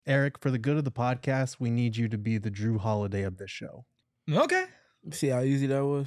Eric, for the good of the podcast, we need you to be the Drew Holiday of this show. Okay. See how easy that was?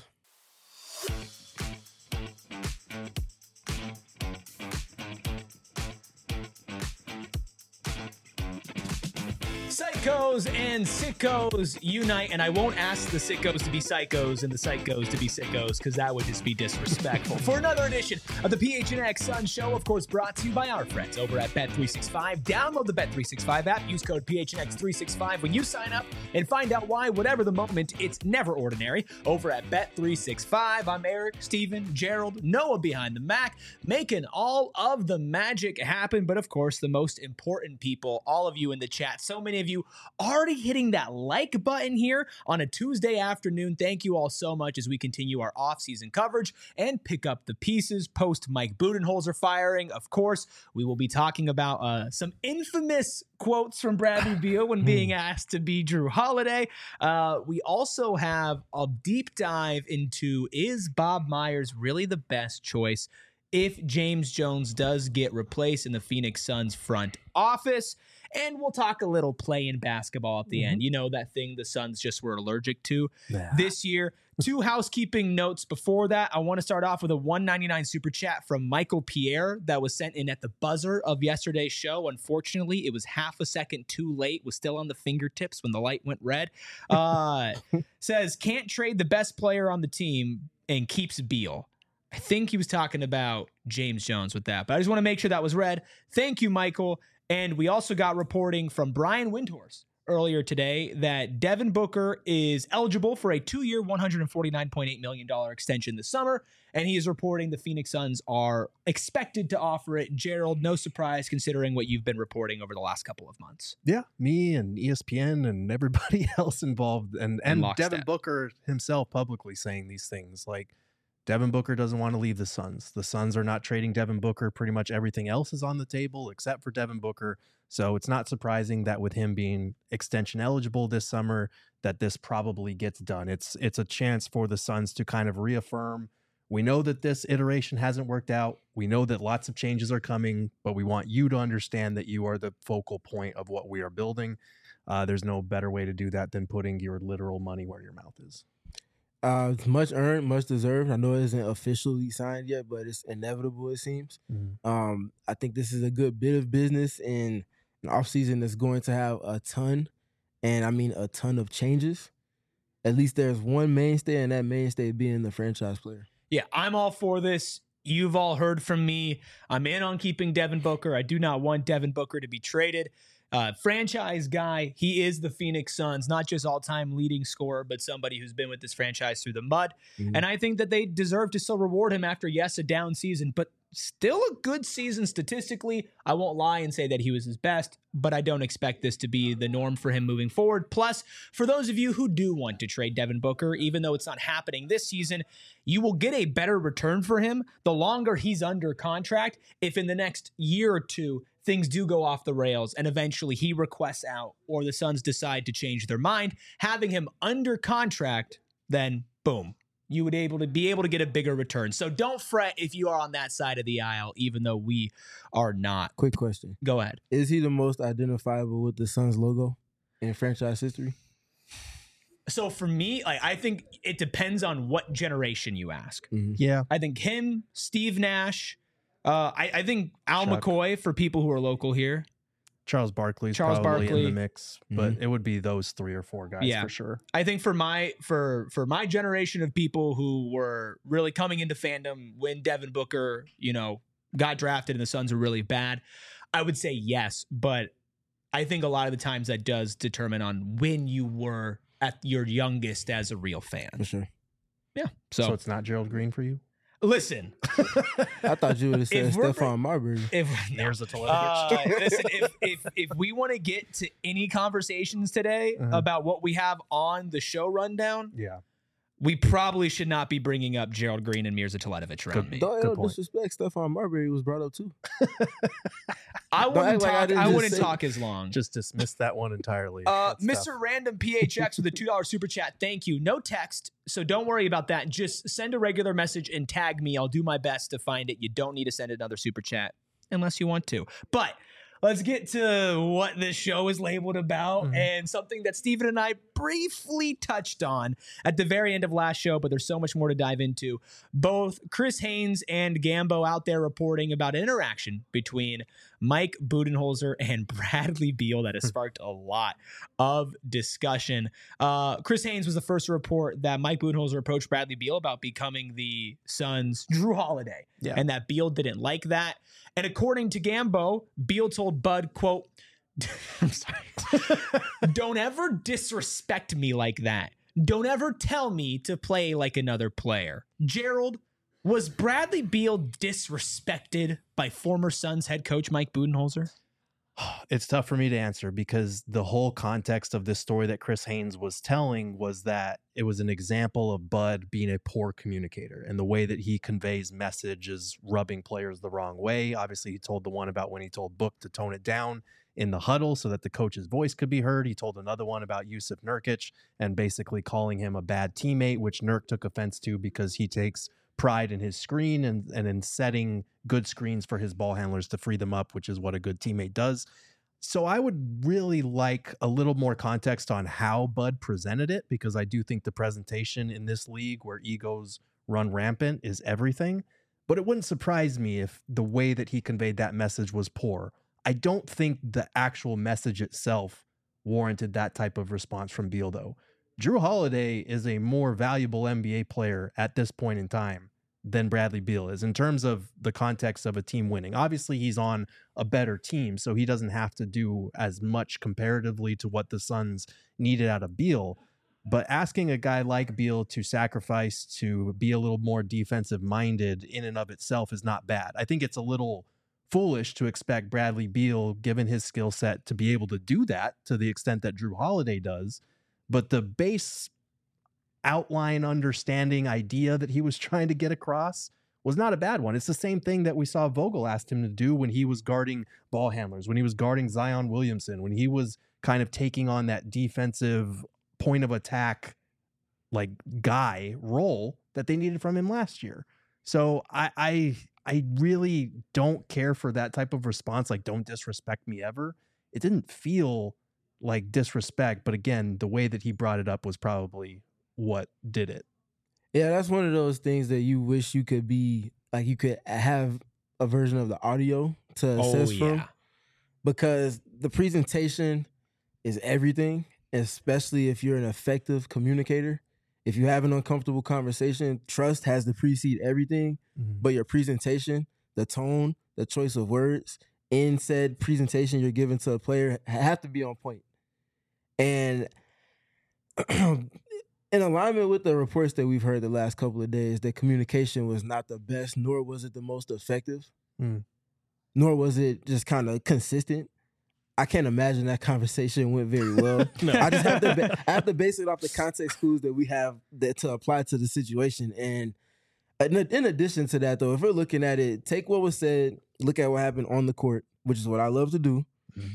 Psychos and sickos unite, and I won't ask the sickos to be psychos and the psychos to be sickos because that would just be disrespectful. For another edition of the PHNX Sun Show, of course, brought to you by our friends over at Bet365. Download the Bet365 app, use code PHNX365 when you sign up, and find out why, whatever the moment, it's never ordinary. Over at Bet365, I'm Eric, Steven, Gerald, Noah behind the Mac, making all of the magic happen. But of course, the most important people, all of you in the chat, so many of you already hitting that like button here on a Tuesday afternoon. Thank you all so much as we continue our off-season coverage and pick up the pieces post Mike Budenholzer firing. Of course, we will be talking about some infamous quotes from Bradley Beal when being asked to be Drew Holiday. We also have a deep dive into, is Bob Myers really the best choice if James Jones does get replaced in the Phoenix Suns front office? And we'll talk a little play-in basketball at the end. You know, that thing the Suns just were allergic to this year. Two housekeeping notes before that. I want to start off with a $1.99 super chat from Michael Pierre that was sent in at the buzzer of yesterday's show. Unfortunately, it was half a second too late. Was still on the fingertips when the light went red. Says, can't trade the best player on the team and keeps Beal. I think he was talking about James Jones with that, but I just want to make sure that was read. Thank you, Michael. And we also got reporting from Brian Windhorst earlier today that Devin Booker is eligible for a 2-year, $149.8 million extension this summer. And he is reporting the Phoenix Suns are expected to offer it. Gerald, no surprise considering what you've been reporting over the last couple of months. Yeah, me and ESPN and everybody else involved. And Devin Booker himself publicly saying these things like, Devin Booker doesn't want to leave the Suns. The Suns are not trading Devin Booker. Pretty much everything else is on the table except for Devin Booker. So it's not surprising that with him being extension eligible this summer, that this probably gets done. It's a chance for the Suns to kind of reaffirm. We know that this iteration hasn't worked out. We know that lots of changes are coming, but we want you to understand that you are the focal point of what we are building. There's no better way to do that than putting your literal money where your mouth is. It's much earned, much deserved. I know it isn't officially signed yet, but it's inevitable, it seems. I think this is a good bit of business in an offseason that's going to have a ton, and I mean a ton of changes. At least there's one mainstay, and that mainstay being the franchise player. Yeah, I'm all for this. You've all heard from me. I'm in on keeping Devin Booker. I do not want Devin Booker to be traded. Franchise guy, he is the Phoenix Suns, not just all-time leading scorer, but somebody who's been with this franchise through the mud. And I think that they deserve to still reward him after, yes, a down season, but still a good season statistically. I won't lie and say that he was his best, but I don't expect this to be the norm for him moving forward. Plus, for those of you who do want to trade Devin Booker, even though it's not happening this season, you will get a better return for him the longer he's under contract. If in the next year or two, things do go off the rails and eventually he requests out or the Suns decide to change their mind, having him under contract, then boom, you would be able to get a bigger return. So don't fret if you are on that side of the aisle, even though we are not. Quick question. Go ahead. Is he the most identifiable with the Suns logo in franchise history? So for me, I think it depends on what generation you ask. Yeah. I think him, Steve Nash, I think Al McCoy for people who are local here. Charles Barkley's probably in the mix, but it would be those 3 or 4 guys for sure. I think for my generation of people who were really coming into fandom when Devin Booker, got drafted and the Suns were really bad, I would say yes, but I think a lot of the times that does determine on when you were at your youngest as a real fan. For sure. Yeah. So it's not Gerald Green for you? Listen, I thought you would have said Stephon Marbury. There's a Teletovic. Listen, if we want to get to any conversations today about what we have on the show rundown, we probably should not be bringing up Gerald Green and Mirza Teletovic around me. Don't disrespect. Stephon Marbury was brought up too. I wouldn't talk as long. Just dismiss that one entirely. Mr. Random PHX with a $2 super chat. Thank you. No text, so don't worry about that. Just send a regular message and tag me. I'll do my best to find it. You don't need to send another super chat unless you want to. But let's get to what this show is labeled about and something that Steven and I briefly touched on at the very end of last show, but there's so much more to dive into. Both Chris Haynes and Gambo out there reporting about an interaction between Mike Budenholzer and Bradley Beal that has sparked a lot of discussion. Chris Haynes was the first to report that Mike Budenholzer approached Bradley Beal about becoming the Suns' Jrue Holiday, and that Beal didn't like that. And according to Gambo, Beal told Bud, quote, I'm sorry, don't ever disrespect me like that. Don't ever tell me to play like another player. Gerald, was Bradley Beal disrespected by former Suns head coach Mike Budenholzer? It's tough for me to answer because the whole context of this story that Chris Haynes was telling was that it was an example of Bud being a poor communicator, and the way that he conveys message is rubbing players the wrong way. Obviously, he told the one about when he told Book to tone it down in the huddle so that the coach's voice could be heard. He told another one about Yusuf Nurkic and basically calling him a bad teammate, which Nurk took offense to because he takes pride in his screen and in setting good screens for his ball handlers to free them up, which is what a good teammate does. So I would really like a little more context on how Bud presented it, because I do think the presentation in this league where egos run rampant is everything. But it wouldn't surprise me if the way that he conveyed that message was poor. I don't think the actual message itself warranted that type of response from Beal, though. Jrue Holiday is a more valuable NBA player at this point in time than Bradley Beal is in terms of the context of a team winning. Obviously, he's on a better team, so he doesn't have to do as much comparatively to what the Suns needed out of Beal. But asking a guy like Beal to sacrifice to be a little more defensive minded in and of itself is not bad. I think it's a little foolish to expect Bradley Beal, given his skill set, to be able to do that to the extent that Jrue Holiday does. But the base outline, understanding, idea that he was trying to get across was not a bad one. It's the same thing that we saw Vogel asked him to do when he was guarding ball handlers, when he was guarding Zion Williamson, when he was kind of taking on that defensive point of attack like guy role that they needed from him last year. So I really don't care for that type of response. Like, don't disrespect me ever. It didn't feel like disrespect, but again, the way that he brought it up was probably what did it. Yeah, that's one of those things that you wish you could be, like, you could have a version of the audio to assess from, because the presentation is everything, especially if you're an effective communicator. If you have an uncomfortable conversation, trust has to precede everything, but your presentation, the tone, the choice of words in said presentation you're giving to a player have to be on point. And in alignment with the reports that we've heard the last couple of days, that communication was not the best, nor was it the most effective, nor was it just kind of consistent. I can't imagine that conversation went very well. No. I just have to base it off the context clues that we have that to apply to the situation. And in addition to that, though, if we're looking at it, take what was said, look at what happened on the court, which is what I love to do.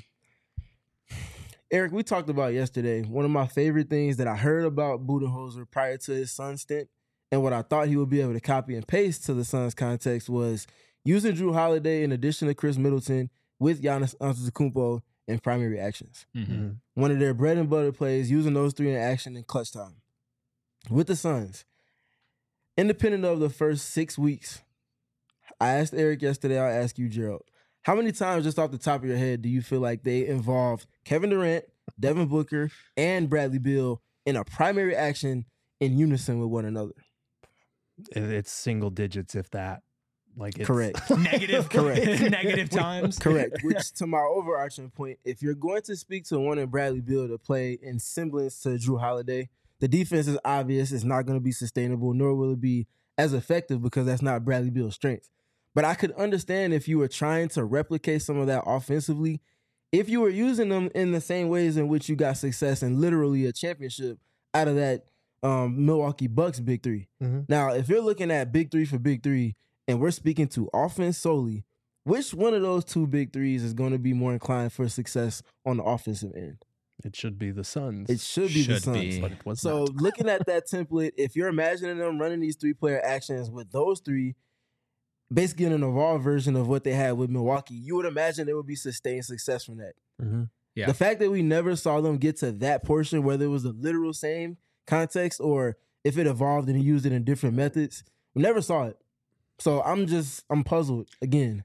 Eric, we talked about yesterday, one of my favorite things that I heard about Budenholzer prior to his Suns stint, and what I thought he would be able to copy and paste to the Suns context, was using Jrue Holiday in addition to Chris Middleton with Giannis Antetokounmpo in primary actions. One of their bread and butter plays, using those three in action in clutch time. With the Suns, independent of the first 6 weeks, I asked Eric yesterday, I'll ask you, Gerald, how many times, just off the top of your head, do you feel like they involved Kevin Durant, Devin Booker, and Bradley Beal in a primary action in unison with one another? It's single digits, if that. Like, it's correct. Negative. Correct. Negative times. Correct. Which, to my overarching point, if you're going to speak to one of Bradley Beal to play in semblance to Jrue Holiday, the defense is obvious. It's not going to be sustainable, nor will it be as effective, because that's not Bradley Beal's strength. But I could understand if you were trying to replicate some of that offensively, if you were using them in the same ways in which you got success and literally a championship out of that Milwaukee Bucks big three. Now, if you're looking at big three for big three, and we're speaking to offense solely, which one of those two big threes is going to be more inclined for success on the offensive end? It should be the Suns. It should be the Suns. But it was so not. Looking at that template, if you're imagining them running these three-player actions with those three, basically an evolved version of what they had with Milwaukee. You would imagine there would be sustained success from that. Mm-hmm. Yeah. The fact that we never saw them get to that portion, whether it was the literal same context or if it evolved and he used it in different methods, we never saw it. So I'm puzzled again.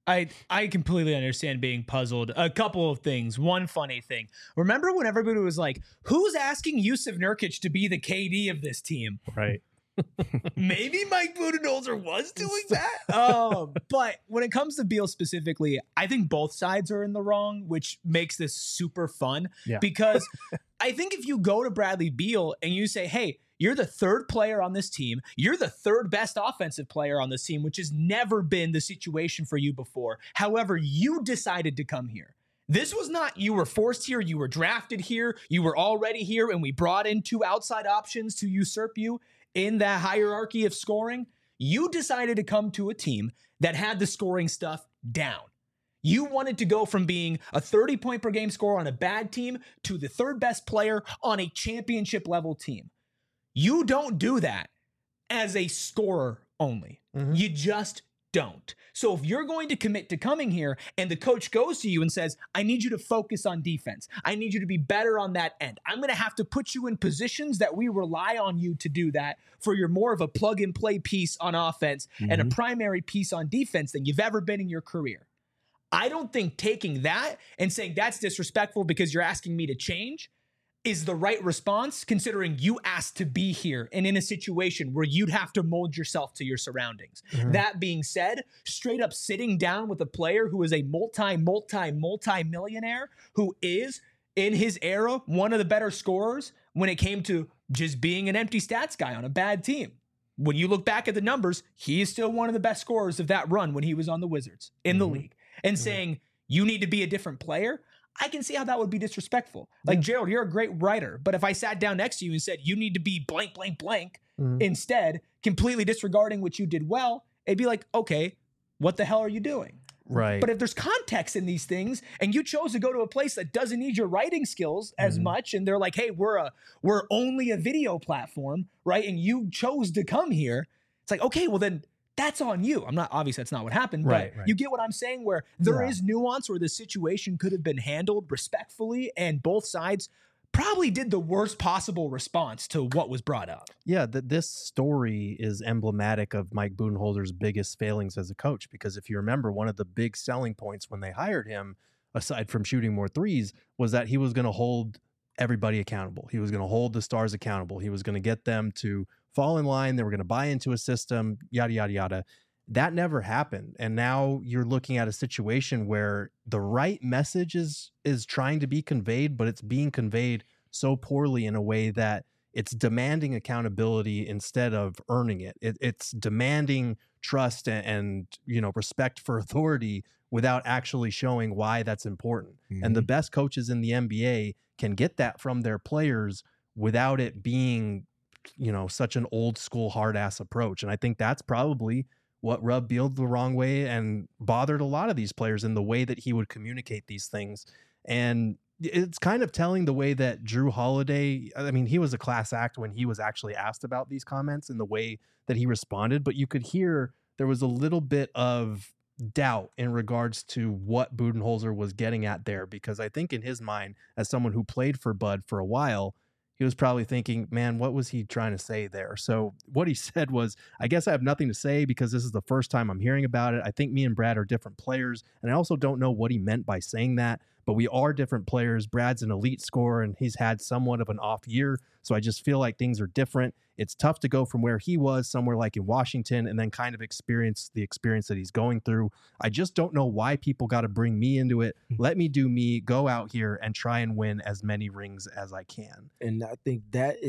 I completely understand being puzzled. A couple of things. One funny thing. Remember when everybody was like, who's asking Jusuf Nurkic to be the KD of this team? Right. Maybe Mike Budenholzer was doing that. But when it comes to Beal specifically, I think both sides are in the wrong, which makes this super fun. Yeah. Because I think if you go to Bradley Beal and you say, hey, you're the third player on this team. You're the third best offensive player on this team, which has never been the situation for you before. However, you decided to come here. This was not you were forced here. You were drafted here. You were already here, and we brought in 2 outside options to usurp you in that hierarchy of scoring. You decided to come to a team that had the scoring stuff down. You wanted to go from being a 30-point per game scorer on a bad team to the third best player on a championship level team. You don't do that as a scorer only. Mm-hmm. You just don't. So if you're going to commit to coming here and the coach goes to you and says, I need you to focus on defense. I need you to be better on that end. I'm going to have to put you in positions that we rely on you to do that for your more of a plug and play piece on offense and a primary piece on defense than you've ever been in your career. I don't think taking that and saying that's disrespectful because you're asking me to change is the right response, considering you asked to be here and in a situation where you'd have to mold yourself to your surroundings. Mm-hmm. That being said, straight up sitting down with a player who is a multi-millionaire, who is, in his era, one of the better scorers when it came to just being an empty stats guy on a bad team. When you look back at the numbers, he is still one of the best scorers of that run when he was on the Wizards in the league. And saying, you need to be a different player, I can see how that would be disrespectful. Like, Gerald, you're a great writer, but if I sat down next to you and said, you need to be blank, blank, blank, instead, completely disregarding what you did well, it'd be like, okay, what the hell are you doing? Right. But if there's context in these things and you chose to go to a place that doesn't need your writing skills as much, and they're like, hey, we're only a video platform, right? And you chose to come here. It's like, okay, well then, that's on you. Obviously that's not what happened, but you get what I'm saying, where there is nuance where the situation could have been handled respectfully and both sides probably did the worst possible response to what was brought up. Yeah, this story is emblematic of Mike Budenholzer's biggest failings as a coach, because if you remember, one of the big selling points when they hired him, aside from shooting more threes, was that he was going to hold everybody accountable. He was going to hold the stars accountable. He was going to get them to fall in line. They were going to buy into a system, yada, yada, yada. That never happened. And now you're looking at a situation where the right message is trying to be conveyed, but it's being conveyed so poorly in a way that it's demanding accountability instead of earning it. It's demanding trust and respect for authority without actually showing why that's important. Mm-hmm. And the best coaches in the NBA can get that from their players without it being such an old school hard ass approach. And I think that's probably what rubbed Beal the wrong way and bothered a lot of these players in the way that he would communicate these things. And it's kind of telling the way that Jrue Holiday, I mean, he was a class act when he was actually asked about these comments and the way that he responded, but you could hear there was a little bit of doubt in regards to what Budenholzer was getting at there, because I think in his mind, as someone who played for Bud for a while, he was probably thinking, man, what was he trying to say there? So what he said was, I guess I have nothing to say because this is the first time I'm hearing about it. I think me and Brad are different players. And I also don't know what he meant by saying that, but we are different players. Brad's an elite scorer and he's had somewhat of an off year. So I just feel like things are different. It's tough to go from where he was somewhere like in Washington and then kind of experience the experience that he's going through. I just don't know why people got to bring me into it. Let me do me, go out here and try and win as many rings as I can. And I think that's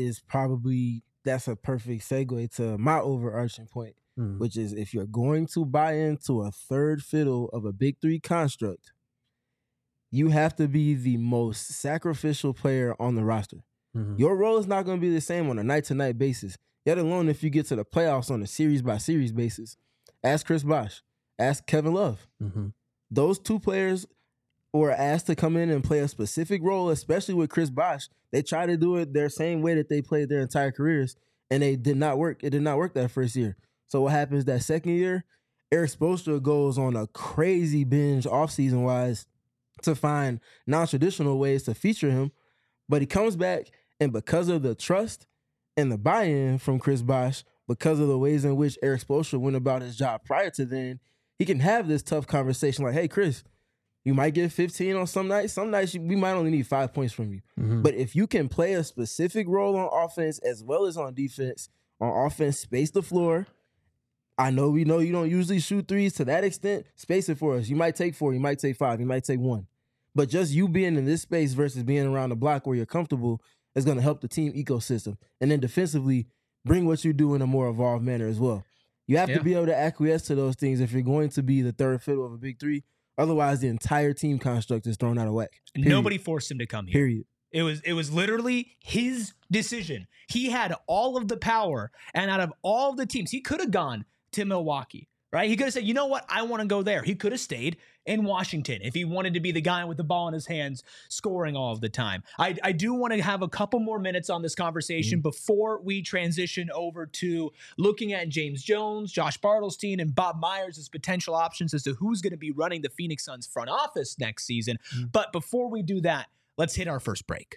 a perfect segue to my overarching point, which is if you're going to buy into a third fiddle of a big three construct, you have to be the most sacrificial player on the roster. Mm-hmm. Your role is not going to be the same on a night-to-night basis, yet alone if you get to the playoffs on a series-by-series basis. Ask Chris Bosh. Ask Kevin Love. Mm-hmm. Those two players were asked to come in and play a specific role, especially with Chris Bosh. They tried to do it their same way that they played their entire careers, and it did not work. It did not work that first year. So what happens that second year? Erik Spoelstra goes on a crazy binge offseason wise to find non-traditional ways to feature him, but he comes back, and because of the trust and the buy-in from Chris Bosh, because of the ways in which Erik Spoelstra went about his job prior to then, he can have this tough conversation like, hey, Chris, you might get 15 on some nights. Some nights we might only need 5 points from you. Mm-hmm. But if you can play a specific role on offense as well as on defense, on offense, space the floor. We know you don't usually shoot threes to that extent. Space it for us. You might take 4, you might take 5, you might take 1. But just you being in this space versus being around the block where you're comfortable is going to help the team ecosystem. And then defensively, bring what you do in a more evolved manner as well. You have to be able to acquiesce to those things if you're going to be the third fiddle of a big three. Otherwise, the entire team construct is thrown out of whack. Period. Nobody forced him to come here. Period. It was literally his decision. He had all of the power, and out of all of the teams, he could have gone to Milwaukee, right? He could have said, you know what? I want to go there. He could have stayed in Washington if he wanted to be the guy with the ball in his hands scoring all of the time. I do want to have a couple more minutes on this conversation before we transition over to looking at James Jones, Josh Bartelstein, and Bob Myers as potential options as to who's going to be running the Phoenix Suns front office next season. But before we do that, let's hit our first break.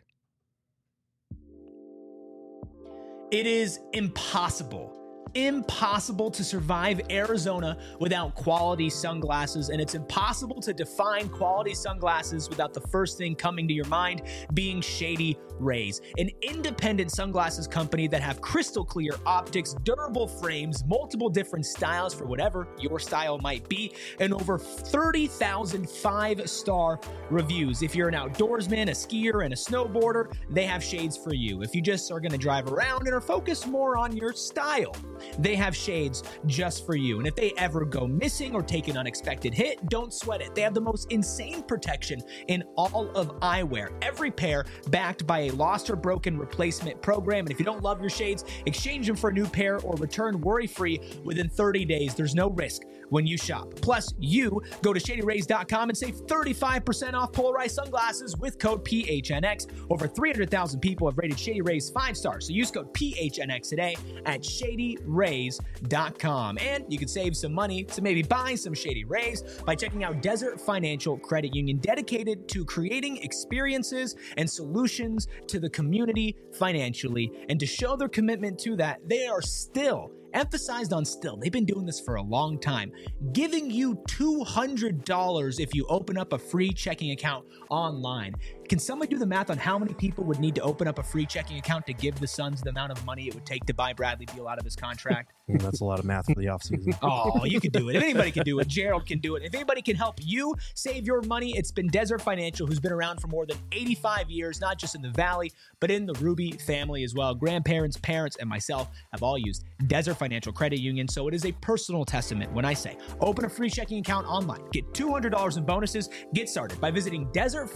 It is impossible to survive Arizona without quality sunglasses, and it's impossible to define quality sunglasses without the first thing coming to your mind being Shady Rays, an independent sunglasses company that have crystal clear optics, durable frames, multiple different styles for whatever your style might be, and over 30,000 5-star reviews. If you're an outdoorsman, a skier, and a snowboarder, they have shades for you. If you just are going to drive around and are focused more on your style, they have shades just for you. And if they ever go missing or take an unexpected hit, don't sweat it. They have the most insane protection in all of eyewear. Every pair backed by a lost or broken replacement program. And if you don't love your shades, exchange them for a new pair or return worry-free within 30 days. There's no risk when you shop. Plus, you go to ShadyRays.com and save 35% off polarized sunglasses with code PHNX. Over 300,000 people have rated Shady Rays 5 stars. So use code PHNX today at ShadyRays.com. And you can save some money to maybe buy some Shady Rays by checking out Desert Financial Credit Union, dedicated to creating experiences and solutions to the community financially. And to show their commitment to that, they are still emphasized on still. They've been doing this for a long time, giving you $200 if you open up a free checking account online. Can somebody do the math on how many people would need to open up a free checking account to give the Suns the amount of money it would take to buy Bradley Beal out of his contract? That's a lot of math for the offseason. Oh, you can do it. If anybody can do it, Gerald can do it. If anybody can help you save your money, it's been Desert Financial, who's been around for more than 85 years, not just in the Valley, but in the Ruby family as well. Grandparents, parents, and myself have all used Desert Financial Credit Union, so it is a personal testament when I say open a free checking account online, get $200 in bonuses. Get started by visiting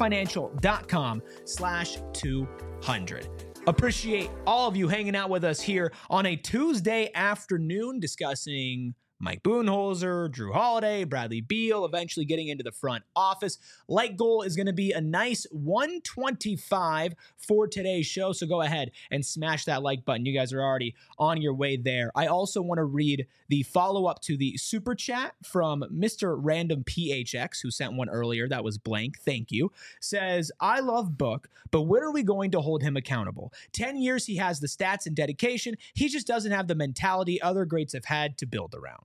desertfinancial.com/200. Appreciate all of you hanging out with us here on a Tuesday afternoon discussing Mike Budenholzer, Jrue Holiday, Bradley Beal, eventually getting into the front office. Like goal is going to be a nice 125 for today's show, so go ahead and smash that like button. You guys are already on your way there. I also want to read the follow-up to the super chat from Mr. Random PHX, who sent one earlier. That was blank. Thank you. Says, I love Book, but where are we going to hold him accountable? 10 years he has the stats and dedication. He just doesn't have the mentality other greats have had to build around.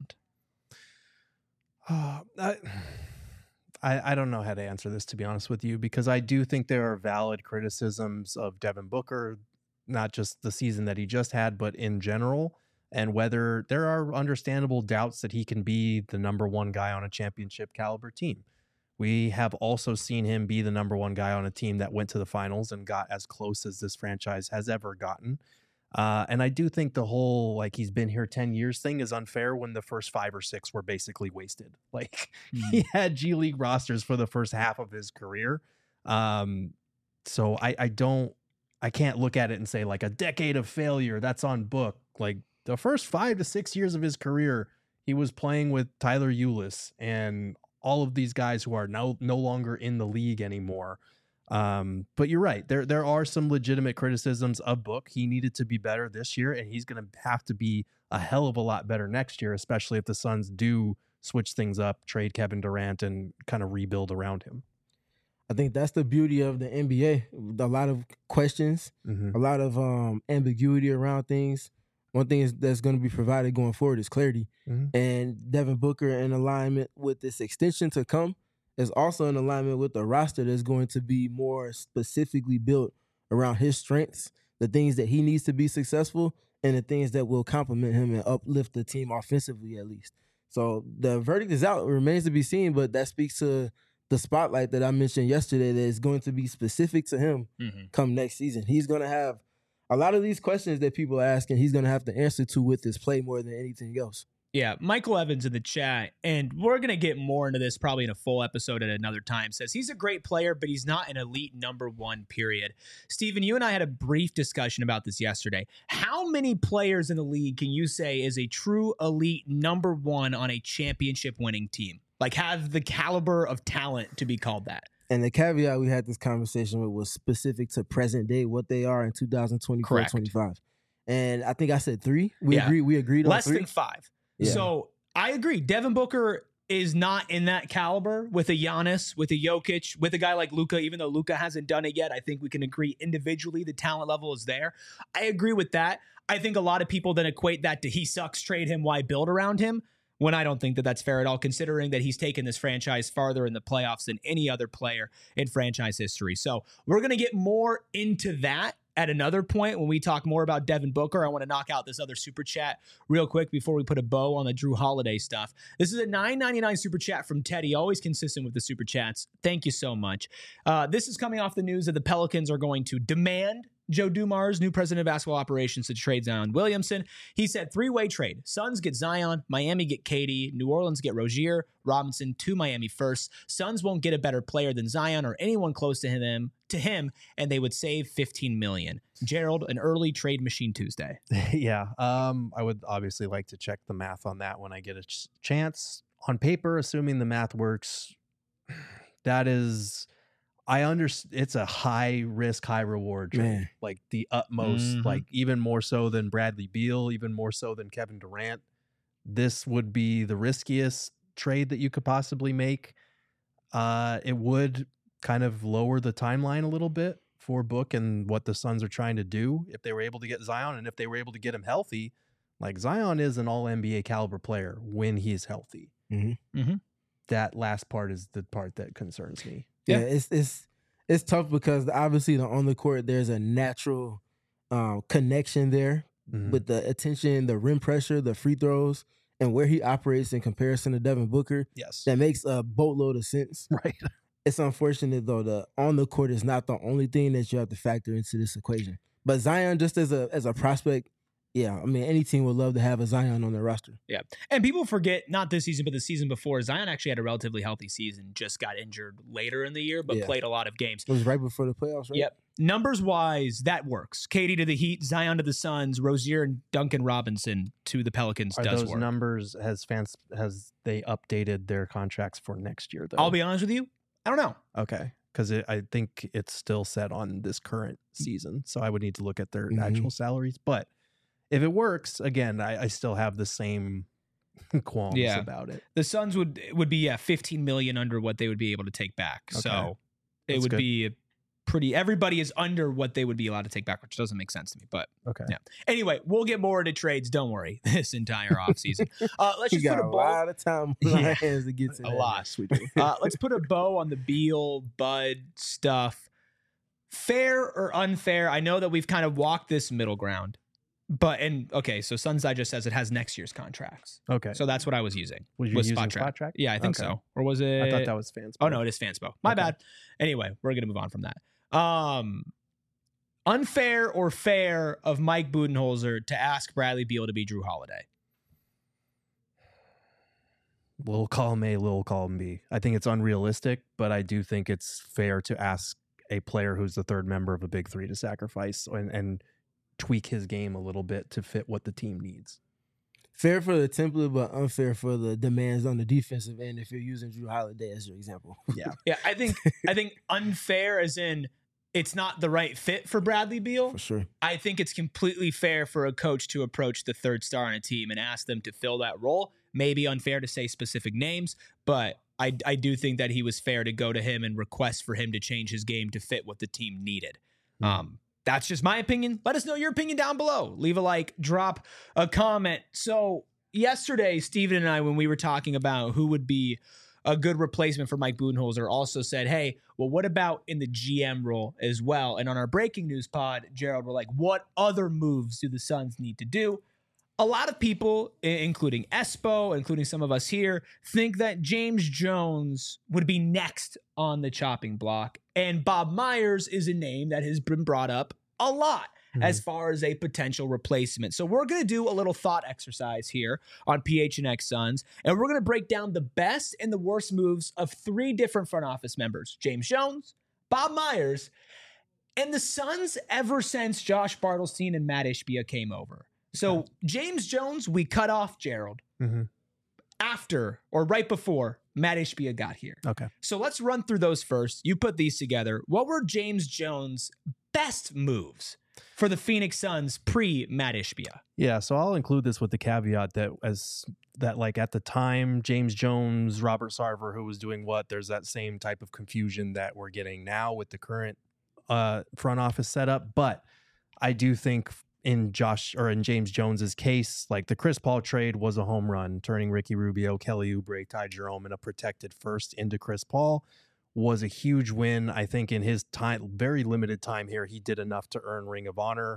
I don't know how to answer this, to be honest with you, because I do think there are valid criticisms of Devin Booker, not just the season that he just had, but in general, and whether there are understandable doubts that he can be the number one guy on a championship caliber team. We have also seen him be the number one guy on a team that went to the finals and got as close as this franchise has ever gotten. And I do think the whole, like, he's been here 10 years thing is unfair when the first 5 or 6 were basically wasted. Like, he had G League rosters for the first half of his career. So I can't look at it and say, like, a decade of failure, that's on Book. Like, the first 5 to 6 years of his career, he was playing with Tyler Ulis and all of these guys who are no longer in the league anymore. But you're right. There are some legitimate criticisms of Book. He needed to be better this year, and he's going to have to be a hell of a lot better next year, especially if the Suns do switch things up, trade Kevin Durant, and kind of rebuild around him. I think that's the beauty of the NBA. A lot of questions, a lot of ambiguity around things. One thing that's going to be provided going forward is clarity. And Devin Booker, in alignment with this extension to come, is also in alignment with the roster that's going to be more specifically built around his strengths, the things that he needs to be successful, and the things that will complement him and uplift the team offensively at least. So the verdict is out. It remains to be seen, but that speaks to the spotlight that I mentioned yesterday that is going to be specific to him come next season. He's going to have a lot of these questions that people are asking, he's going to have to answer to with his play more than anything else. Yeah, Michael Evans in the chat, and we're going to get more into this probably in a full episode at another time, says he's a great player, but he's not an elite number one, period. Steven, you and I had a brief discussion about this yesterday. How many players in the league can you say is a true elite number one on a championship winning team? Like have the caliber of talent to be called that? And the caveat we had this conversation with was specific to present day, what they are in 2024-25. And I think I said 3. We agreed on less 3. than 5. Yeah. So I agree. Devin Booker is not in that caliber with a Giannis, with a Jokic, with a guy like Luka. Even though Luka hasn't done it yet, I think we can agree individually the talent level is there. I agree with that. I think a lot of people then equate that to he sucks, trade him, why build around him? When I don't think that that's fair at all, considering that he's taken this franchise farther in the playoffs than any other player in franchise history. So we're going to get more into that at another point when we talk more about Devin Booker. I want to knock out this other super chat real quick before we put a bow on the Jrue Holiday stuff. This is a $9.99 super chat from Teddy, always consistent with the super chats. Thank you so much. This is coming off the news that the Pelicans are going to demand Joe Dumars, new president of basketball operations, to trade Zion Williamson. He said 3-way trade. Suns get Zion, Miami get KD, New Orleans get Rozier, Robinson to Miami first. Suns won't get a better player than Zion or anyone close to him, and they would save $15 million. Gerald, an early trade machine Tuesday. Yeah, I would obviously like to check the math on that when I get a chance. On paper, assuming the math works, that is... I understand it's a high risk, high reward trade, like the utmost, like even more so than Bradley Beal, even more so than Kevin Durant. This would be the riskiest trade that you could possibly make. It would kind of lower the timeline a little bit for Book and what the Suns are trying to do if they were able to get Zion and if they were able to get him healthy. Like Zion is an all NBA caliber player when he's healthy. That last part is the part that concerns me. Yeah, it's tough because obviously on the court there's a natural connection there with the attention, the rim pressure, the free throws, and where he operates in comparison to Devin Booker. Yes, that makes a boatload of sense. Right. It's unfortunate though the on the court is not the only thing that you have to factor into this equation. But Zion, just as a prospect. Yeah, I mean, any team would love to have a Zion on their roster. Yeah, and people forget, not this season, but the season before, Zion actually had a relatively healthy season, just got injured later in the year, but played a lot of games. It was right before the playoffs, right? Yep. Numbers-wise, that works. KD to the Heat, Zion to the Suns, Rozier and Duncan Robinson to the Pelicans does work. Are those numbers, has they updated their contracts for next year, though? I'll be honest with you, I don't know. Okay. Because I think it's still set on this current season, so I would need to look at their actual salaries, but... If it works, again, I still have the same qualms about it. The Suns would be $15 million under what they would be able to take back. Okay. So it would be pretty. Everybody is under what they would be allowed to take back, which doesn't make sense to me. But yeah. Anyway, we'll get more into trades. Don't worry, this entire offseason. Let's just put a lot of time on our hands to get to a lot. Let's put a bow on the Beal Bud stuff. Fair or unfair? I know that we've kind of walked this middle ground. So Suns Digest says it has next year's contracts. Okay. So that's what I was using. Was you using Spot Track? Yeah, I think so. Or was it? I thought that was Fanspo. Oh, no, it is Fanspo. My bad. Anyway, we're going to move on from that. Unfair or fair of Mike Budenholzer to ask Bradley Beal to be Jrue Holiday? Little column A, little column B. I think it's unrealistic, but I do think it's fair to ask a player who's the third member of a big three to sacrifice and tweak his game a little bit to fit what the team needs. Fair for the template, but unfair for the demands on the defensive end if you're using Jrue Holiday as your example. Yeah. I think unfair as in it's not the right fit for Bradley Beal. For sure. I think it's completely fair for a coach to approach the third star on a team and ask them to fill that role. maybe unfair to say specific names, but I do think that he was fair to go to him and request for him to change his game to fit what the team needed. That's just my opinion. Let us know your opinion down below. Leave a like, drop a comment. So yesterday, Steven and I, when we were talking about who would be a good replacement for Mike Budenholzer, also said, hey, well, what about in the GM role as well? And on our breaking news pod, Gerald, we're like, what other moves do the Suns need to do? A lot of people, including Espo, including some of us here, think that James Jones would be next on the chopping block. And Bob Myers is a name that has been brought up a lot as far as a potential replacement. So we're going to do a little thought exercise here on PHNX Suns, and we're going to break down the best and the worst moves of 3 different front office members: James Jones, Bob Myers, and the Suns ever since Josh Bartelstein and Matt Ishbia came over. So James Jones, we cut off Gerald after or right before Matt Ishbia got here. Okay. So let's run through those first. You put these together. What were James Jones' best moves for the Phoenix Suns pre-Matt Ishbia? Yeah, so I'll include this with the caveat that like at the time, James Jones, Robert Sarver, who was doing what, there's that same type of confusion that we're getting now with the current front office setup. But I do think in James Jones's case, like the Chris Paul trade was a home run, turning Ricky Rubio, Kelly Oubre, Ty Jerome, and a protected first into Chris Paul was a huge win. I think in his time, very limited time here, he did enough to earn Ring of Honor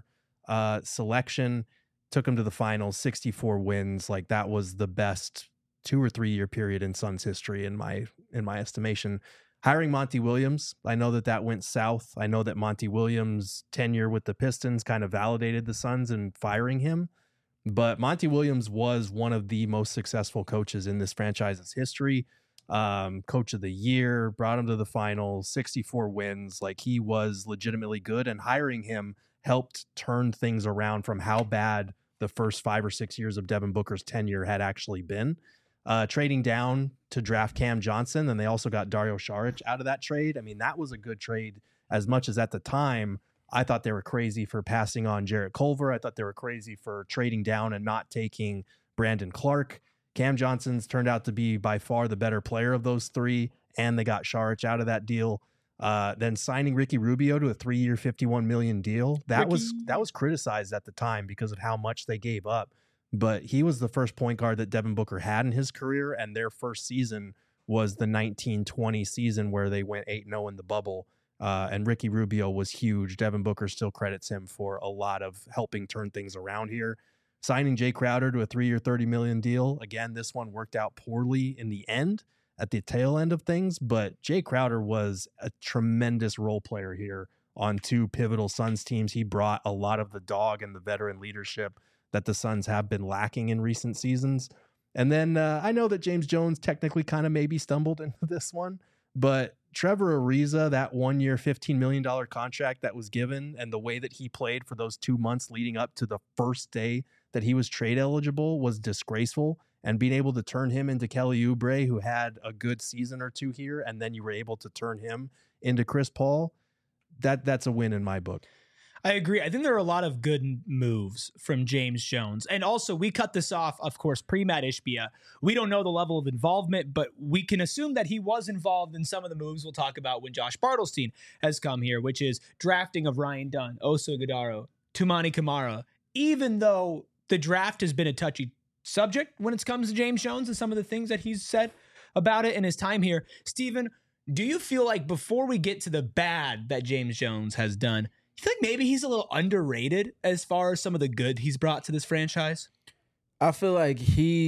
selection, took him to the finals, 64 wins. Like that was the best 2 or 3 year period in Suns history in my estimation. Hiring Monty Williams, I know that went south. I know that Monty Williams' tenure with the Pistons kind of validated the Suns in firing him. But Monty Williams was one of the most successful coaches in this franchise's history. Coach of the year, brought him to the finals, 64 wins. Like he was legitimately good, and hiring him helped turn things around from how bad the first 5 or 6 years of Devin Booker's tenure had actually been. Trading down to draft Cam Johnson, and they also got Dario Saric out of that trade. I mean, that was a good trade, as much as at the time I thought they were crazy for passing on Jarrett Culver. I thought they were crazy for trading down and not taking Brandon Clark. Cam Johnson's turned out to be by far the better player of those 3, and they got Saric out of that deal. Then signing Ricky Rubio to a 3-year, $51 million deal. That was criticized at the time because of how much they gave up. But he was the first point guard that Devin Booker had in his career, and their first season was the 1920 season where they went 8-0 in the bubble. And Ricky Rubio was huge. Devin Booker still credits him for a lot of helping turn things around here. Signing Jay Crowder to a 3-year, $30 million deal. Again, this one worked out poorly in the end, at the tail end of things, but Jay Crowder was a tremendous role player here on 2 pivotal Suns teams. He brought a lot of the dog and the veteran leadership that the Suns have been lacking in recent seasons. And then I know that James Jones technically kind of maybe stumbled into this one, but Trevor Ariza, that 1-year, $15 million contract that was given, and the way that he played for those 2 months leading up to the first day that he was trade eligible was disgraceful. And being able to turn him into Kelly Oubre, who had a good season or 2 here, and then you were able to turn him into Chris Paul, that's a win in my book. I agree. I think there are a lot of good moves from James Jones. And also, we cut this off, of course, pre-Matt Ishbia. We don't know the level of involvement, but we can assume that he was involved in some of the moves we'll talk about when Josh Bartelstein has come here, which is drafting of Ryan Dunn, Oso Ighodaro, Toumani Camara. Even though the draft has been a touchy subject when it comes to James Jones and some of the things that he's said about it in his time here. Steven, do you feel like before we get to the bad that James Jones has done, you feel like maybe he's a little underrated as far as some of the good he's brought to this franchise? I feel like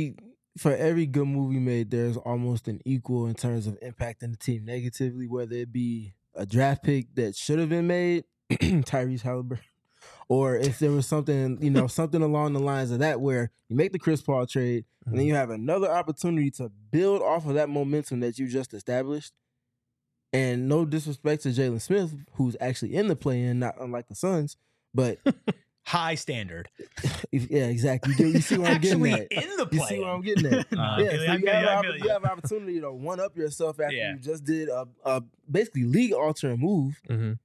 for every good move he made, there's almost an equal in terms of impacting the team negatively, whether it be a draft pick that should have been made, Tyrese Halliburton, or if there was something, something along the lines of that where you make the Chris Paul trade and then you have another opportunity to build off of that momentum that you just established. And no disrespect to Jalen Smith, who's actually in the play-in, not unlike the Suns, but high standard. Yeah, exactly. You see what I'm getting at. In the play-in. You see what I'm getting at. You have an opportunity to one-up yourself after you just did a basically league-altering move,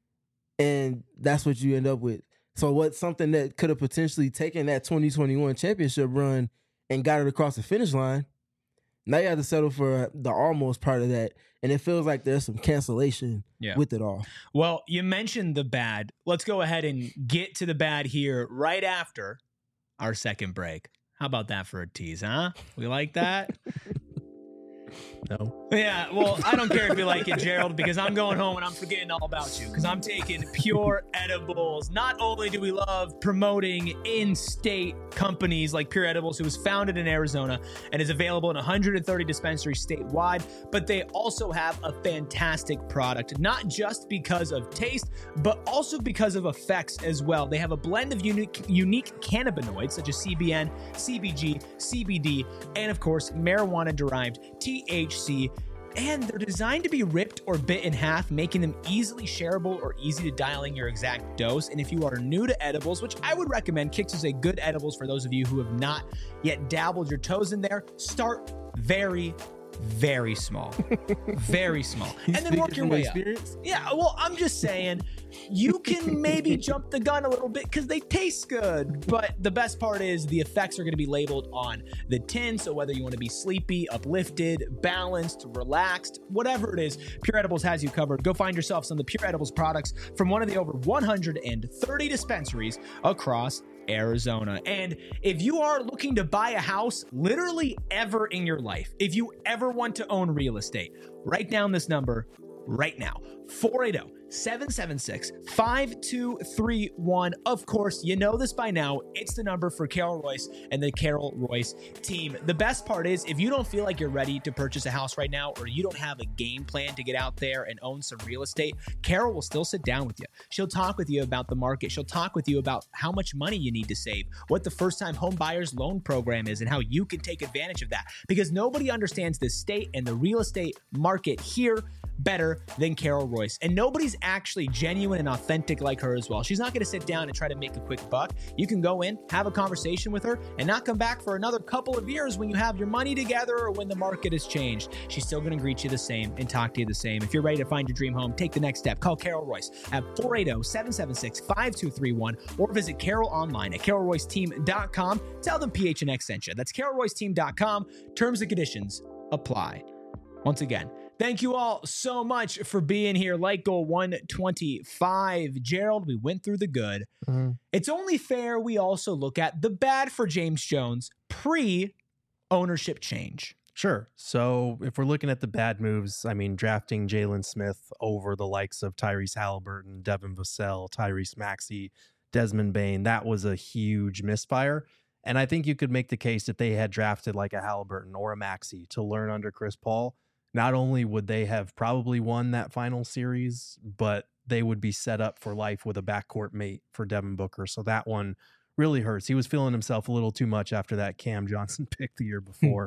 and that's what you end up with. So what's something that could have potentially taken that 2021 championship run and got it across the finish line, Now you have to settle for the almost part of that, and it feels like there's some cancellation with it all. Well, you mentioned the bad. Let's go ahead and get to the bad here right after our second break. How about that for a tease, huh? We like that? No. Yeah, well, I don't care if you like it, Gerald, because I'm going home and I'm forgetting all about you because I'm taking Pure Edibles. Not only do we love promoting in-state companies like Pure Edibles, who was founded in Arizona and is available in 130 dispensaries statewide, but they also have a fantastic product, not just because of taste, but also because of effects as well. They have a blend of unique cannabinoids such as CBN, CBG, CBD, and of course, marijuana-derived THC, and they're designed to be ripped or bit in half, making them easily shareable or easy to dial in your exact dose. And if you are new to edibles, which I would recommend, Kicks is a good edibles for those of you who have not yet dabbled your toes in there, start very, very small. Very small. And then work your way up. Yeah, well, I'm just saying, you can maybe jump the gun a little bit because they taste good. But the best part is the effects are going to be labeled on the tin. So whether you want to be sleepy, uplifted, balanced, relaxed, whatever it is, Pure Edibles has you covered. Go find yourself some of the Pure Edibles products from one of the over 130 dispensaries across Arizona. And if you are looking to buy a house literally ever in your life, if you ever want to own real estate, write down this number right now: 480-776-5231. Of course, you know this by now. It's the number for Carol Royce and the Carol Royce team. The best part is, if you don't feel like you're ready to purchase a house right now, or you don't have a game plan to get out there and own some real estate, Carol will still sit down with you. She'll talk with you about the market. She'll talk with you about how much money you need to save, what the first-time home buyers loan program is, and how you can take advantage of that. Because nobody understands the state and the real estate market here better than Carol Royce. And nobody's actually genuine and authentic like her as well. She's not going to sit down and try to make a quick buck. You can go in, have a conversation with her, and not come back for another couple of years when you have your money together or when the market has changed. She's still going to greet you the same and talk to you the same. If you're ready to find your dream home, take the next step. Call Carol Royce at 480-776-5231 or visit Carol online at carolroyceteam.com. Tell them PHNX sent you. That's carolroyceteam.com. Terms and conditions apply. Once again, thank you all so much for being here. Like goal 125. Gerald, we went through the good. It's only fair we also look at the bad for James Jones pre-ownership change. Sure. So if we're looking at the bad moves, I mean, drafting Jalen Smith over the likes of Tyrese Halliburton, Devin Vassell, Tyrese Maxey, Desmond Bane, that was a huge misfire. And I think you could make the case that they had drafted like a Halliburton or a Maxey to learn under Chris Paul. Not only would they have probably won that final series, but they would be set up for life with a backcourt mate for Devin Booker. So that one really hurts. He was feeling himself a little too much after that Cam Johnson pick the year before.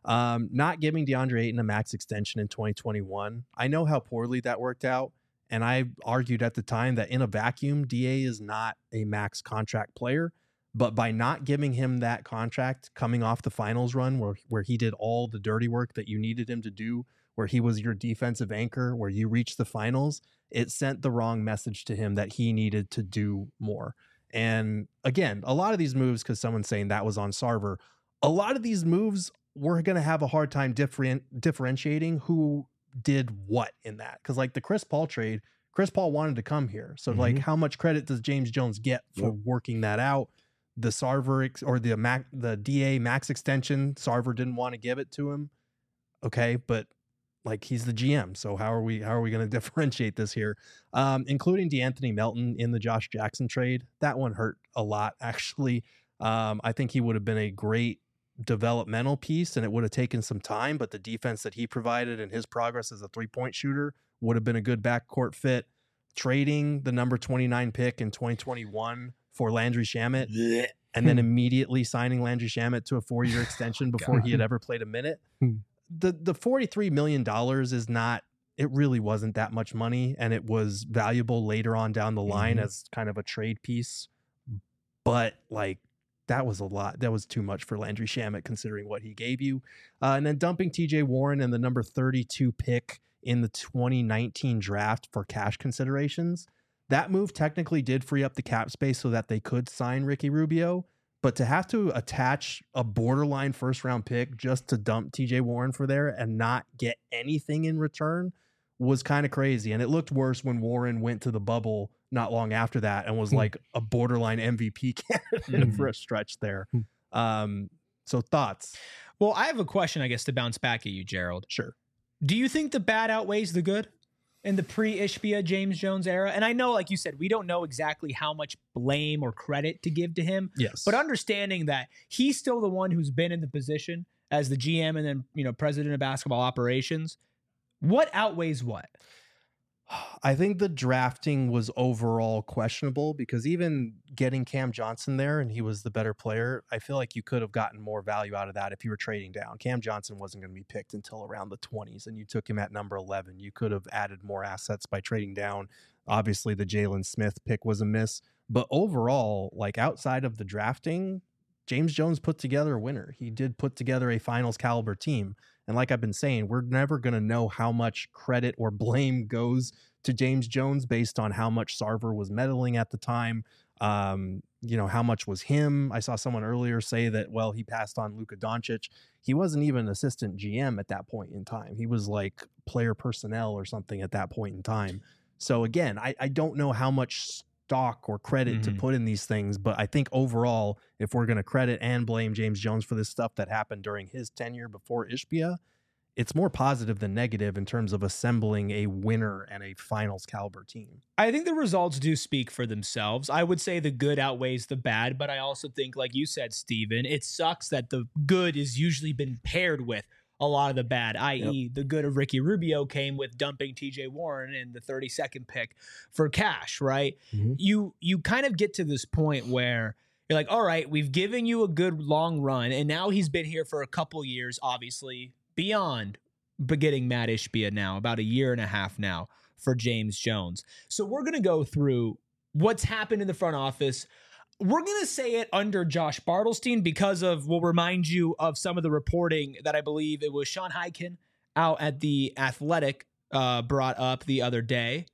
Not giving DeAndre Ayton a max extension in 2021. I know how poorly that worked out. And I argued at the time that in a vacuum, DA is not a max contract player. But by not giving him that contract coming off the finals run where he did all the dirty work that you needed him to do, where he was your defensive anchor, where you reached the finals, it sent the wrong message to him that he needed to do more. And again, a lot of these moves, because someone's saying that was on Sarver, a lot of these moves, we're going to have a hard time differentiating who did what in that. Because like the Chris Paul trade, Chris Paul wanted to come here. So like how much credit does James Jones get for working that out? The Sarver or the DA max extension, Sarver didn't want to give it to him. Okay, but like he's the GM, so how are we going to differentiate this here? Including DeAnthony Melton in the Josh Jackson trade, that one hurt a lot actually. I think he would have been a great developmental piece, and it would have taken some time. But the defense that he provided and his progress as a 3-point shooter would have been a good backcourt fit. Trading the number 29 pick in 2021 for Landry Shamet, and then immediately signing Landry Shamet to a 4-year extension before he had ever played a minute. The $43 million is not, it really wasn't that much money, and it was valuable later on down the line as kind of a trade piece. But like, that was a lot. That was too much for Landry Shamet considering what he gave you. And then dumping TJ Warren and the number 32 pick in the 2019 draft for cash considerations. That move technically did free up the cap space so that they could sign Ricky Rubio, But to have to attach a borderline first-round pick just to dump TJ Warren for there and not get anything in return was kind of crazy. And it looked worse when Warren went to the bubble not long after that and was like a borderline MVP candidate for a stretch there. So thoughts? Well, I have a question, I guess, to bounce back at you, Gerald. Sure. Do you think the bad outweighs the good in the pre-Ishbia James Jones era? And I know, like you said, we don't know exactly how much blame or credit to give to him. Yes. But understanding that he's still the one who's been in the position as the GM and then, you know, president of basketball operations, what outweighs what? I think the drafting was overall questionable because even getting Cam Johnson there and he was the better player, I feel like you could have gotten more value out of that if you were trading down. Cam Johnson wasn't going to be picked until around the 20s and you took him at number 11. You could have added more assets by trading down. Obviously, the Jalen Smith pick was a miss. But overall, like outside of the drafting, James Jones put together a winner. He did put together a finals caliber team. And like I've been saying, we're never going to know how much credit or blame goes to James Jones based on how much Sarver was meddling at the time. You know, how much was him. I saw someone earlier say that, well, he passed on Luka Doncic. He wasn't even assistant GM at that point in time. He was like player personnel or something at that point in time. So again, I don't know how much stock or credit to put in these things, but I think overall, if we're going to credit and blame James Jones for this stuff that happened during his tenure before Ishbia, it's more positive than negative in terms of assembling a winner and a finals caliber team. I think the results do speak for themselves. I would say the good outweighs the bad, but I also think, like you said, Steven, it sucks that the good is usually been paired with a lot of the bad, i.e. the good of Ricky Rubio came with dumping TJ Warren in the 32nd pick for cash, right? You kind of get to this point where you're like, all right, we've given you a good long run, and now he's been here for a couple years, obviously, beyond getting Matt Ishbia now, about a year and a half now for James Jones. So we're going to go through what's happened in the front office. We're going to say it under Josh Bartelstein because of, we'll remind you of some of the reporting that I believe it was Sean Hyken out at The Athletic brought up the other day,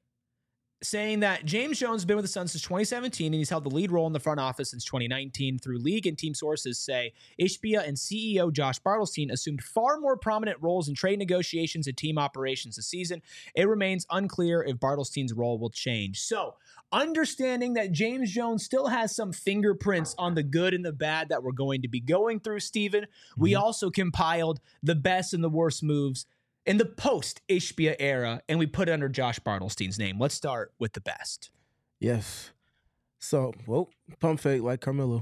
saying that James Jones has been with the Suns since 2017 and he's held the lead role in the front office since 2019. Through league and team sources say Ishbia and CEO Josh Bartelstein assumed far more prominent roles in trade negotiations and team operations this season. It remains unclear if Bartelstein's role will change. So, understanding that James Jones still has some fingerprints on the good and the bad that we're going to be going through, Steven, we also compiled the best and the worst moves in the post-Ishbia era, and we put it under Josh Bartelstein's name. Let's start with the best. Yes. So, well, pump fake like Carmelo.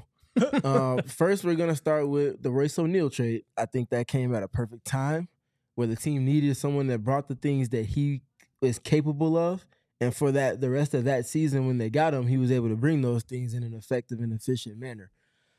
First, we're going to start with the Royce O'Neal trade. I think that came at a perfect time where the team needed someone that brought the things that he is capable of. And for that, the rest of that season when they got him, he was able to bring those things in an effective and efficient manner.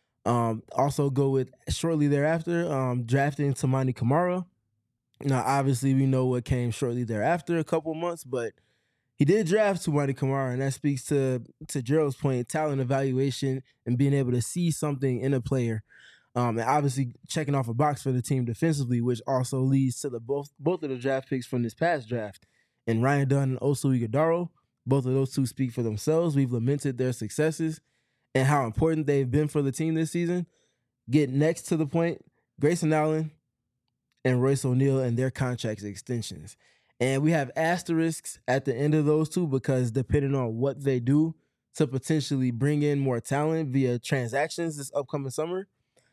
Also go with shortly thereafter, drafting Toumani Camara. Now, obviously, we know what came shortly thereafter, a couple months, but he did draft Toumani Camara, and that speaks to Gerald's point, talent evaluation and being able to see something in a player. And obviously checking off a box for the team defensively, which also leads to the both of the draft picks from this past draft. And Ryan Dunn and Oso Ighodaro, both of those two speak for themselves. We've lamented their successes and how important they've been for the team this season. Get next to the point, Grayson Allen and Royce O'Neal and their contract extensions. And we have asterisks at the end of those two because depending on what they do to potentially bring in more talent via transactions this upcoming summer,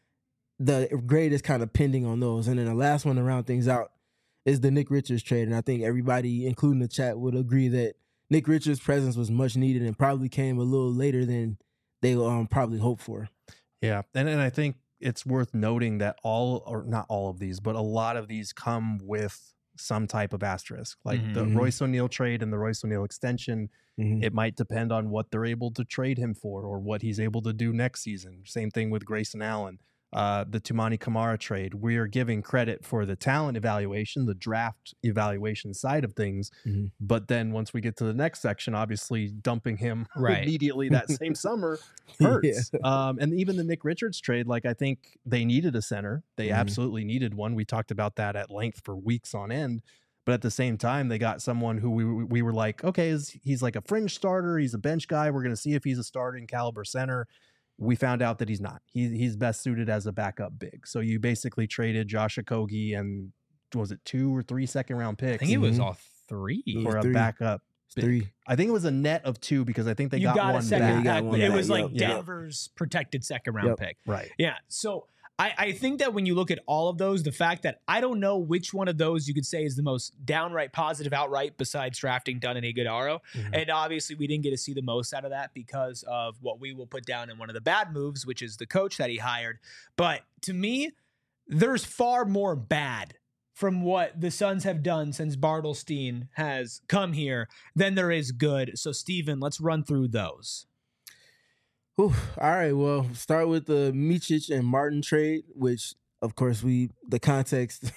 the grade is kind of pending on those. And then the last one to round things out is the Nick Richards trade. And I think everybody, including the chat, would agree that Nick Richards' presence was much needed and probably came a little later than they probably hoped for. Yeah, and I think it's worth noting that not all of these, but a lot of these come with some type of asterisk. Like the Royce O'Neal trade and the Royce O'Neal extension, it might depend on what they're able to trade him for or what he's able to do next season. Same thing with Grayson Allen. The Toumani Camara trade, we are giving credit for the talent evaluation, the draft evaluation side of things. But then once we get to the next section, obviously dumping him immediately that same summer hurts. And even the Nick Richards trade, like I think they needed a center. They absolutely needed one. We talked about that at length for weeks on end. But at the same time, they got someone who we were like, okay, he's like a fringe starter. He's a bench guy. We're going to see if he's a starting caliber center. We found out that he's not. He's best suited as a backup big. So you basically traded Josh Okogie and was it 2 or 3 second-round picks? I think it was all 3 for a backup. Three. I think it was a net of 2 because I think they got one back. It was like Denver's protected second-round pick. Right. Yeah. So I think that when you look at all of those, the fact that I don't know which one of those you could say is the most downright positive outright besides drafting Dunn and Iguodaro. And obviously we didn't get to see the most out of that because of what we will put down in one of the bad moves, which is the coach that he hired. But to me, there's far more bad from what the Suns have done since Bartelstein has come here than there is good. So, Steven, let's run through those. All right, well, start with the Micic and Martin trade, which, of course, the context,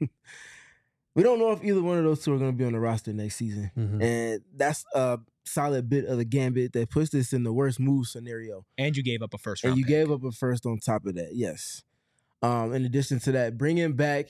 we don't know if either one of those two are going to be on the roster next season. And that's a solid bit of the gambit that puts this in the worst move scenario. And you gave up a first round pick. Gave up a first on top of that, yes. In addition to that, bringing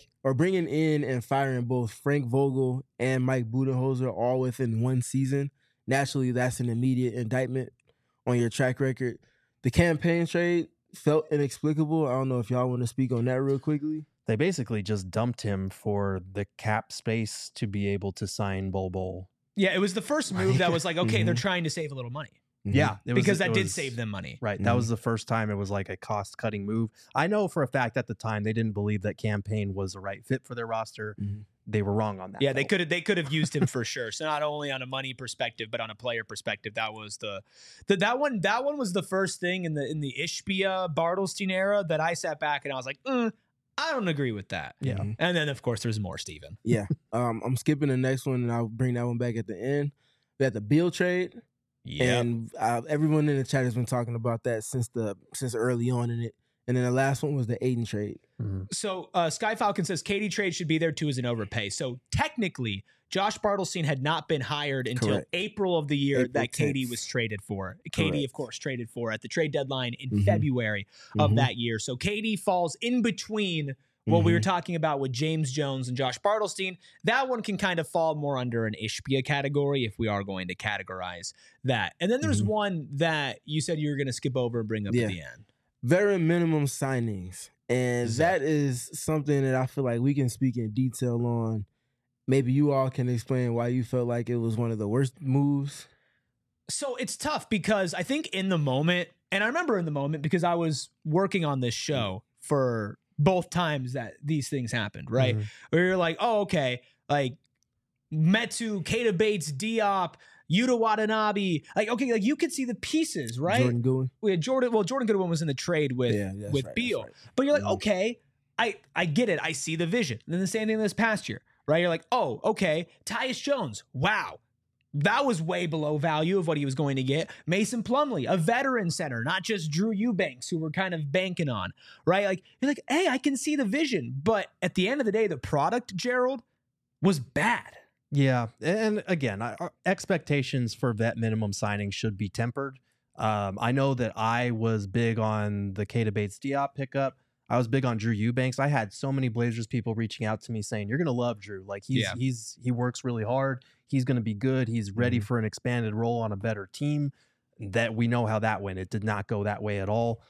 in and firing both Frank Vogel and Mike Budenholzer all within one season, naturally that's an immediate indictment on your track record. The campaign trade felt inexplicable. I don't know if y'all want to speak on that real quickly. They basically just dumped him for the cap space to be able to sign Bol Bol. Yeah, it was the first move that was like, okay, they're trying to save a little money. Yeah, because that did save them money. Right. That was the first time it was like a cost-cutting move. I know for a fact at the time they didn't believe that campaign was the right fit for their roster. They were wrong on that. Yeah, though. They could have used him for sure. So not only on a money perspective, but on a player perspective, that was that one was the first thing in the Ishbia Bartelstein era that I sat back and I was like, I don't agree with that. Yeah. And then of course there's more, Steven. Yeah. I'm skipping the next one and I'll bring that one back at the end. We had the Beal trade. Yeah, and everyone in the chat has been talking about that since early on in it. And then the last one was the Aiden trade. So Sky Falcon says KD trade should be there too as an overpay. So technically, Josh Bartelstein had not been hired until April of the year that KD was traded for. KD, of course, traded for at the trade deadline in February of that year. So KD falls in between what we were talking about with James Jones and Josh Bartelstein. That one can kind of fall more under an Ishbia category if we are going to categorize that. And then there's one that you said you were going to skip over and bring up at the end. Very minimum signings. And that is something that I feel like we can speak in detail on. Maybe you all can explain why you felt like it was one of the worst moves. So it's tough because I think in the moment, and I remember in the moment because I was working on this show for both times that these things happened, right? Where you're like, oh, okay, like Metu, Keita Bates, Diop, Yuta Watanabe, like, okay, like you could see the pieces, right? Jordan Goodwin. We had Jordan Goodwin was in the trade with Beal. Right. But you're like, okay, I get it. I see the vision. And then the same thing this past year, right? You're like, oh, okay, Tyus Jones, wow. That was way below value of what he was going to get. Mason Plumlee, a veteran center, not just Drew Eubanks, who we're kind of banking on, right? Like, you're like, hey, I can see the vision. But at the end of the day, the product, Gerald, was bad. Yeah. And again, our expectations for vet minimum signing should be tempered. I know that I was big on the Keita Bates Diop pickup. I was big on Drew Eubanks. I had so many Blazers people reaching out to me saying, you're going to love Drew. Like he works really hard. He's going to be good. He's ready for an expanded role on a better team. That we know how that went. It did not go that way at all.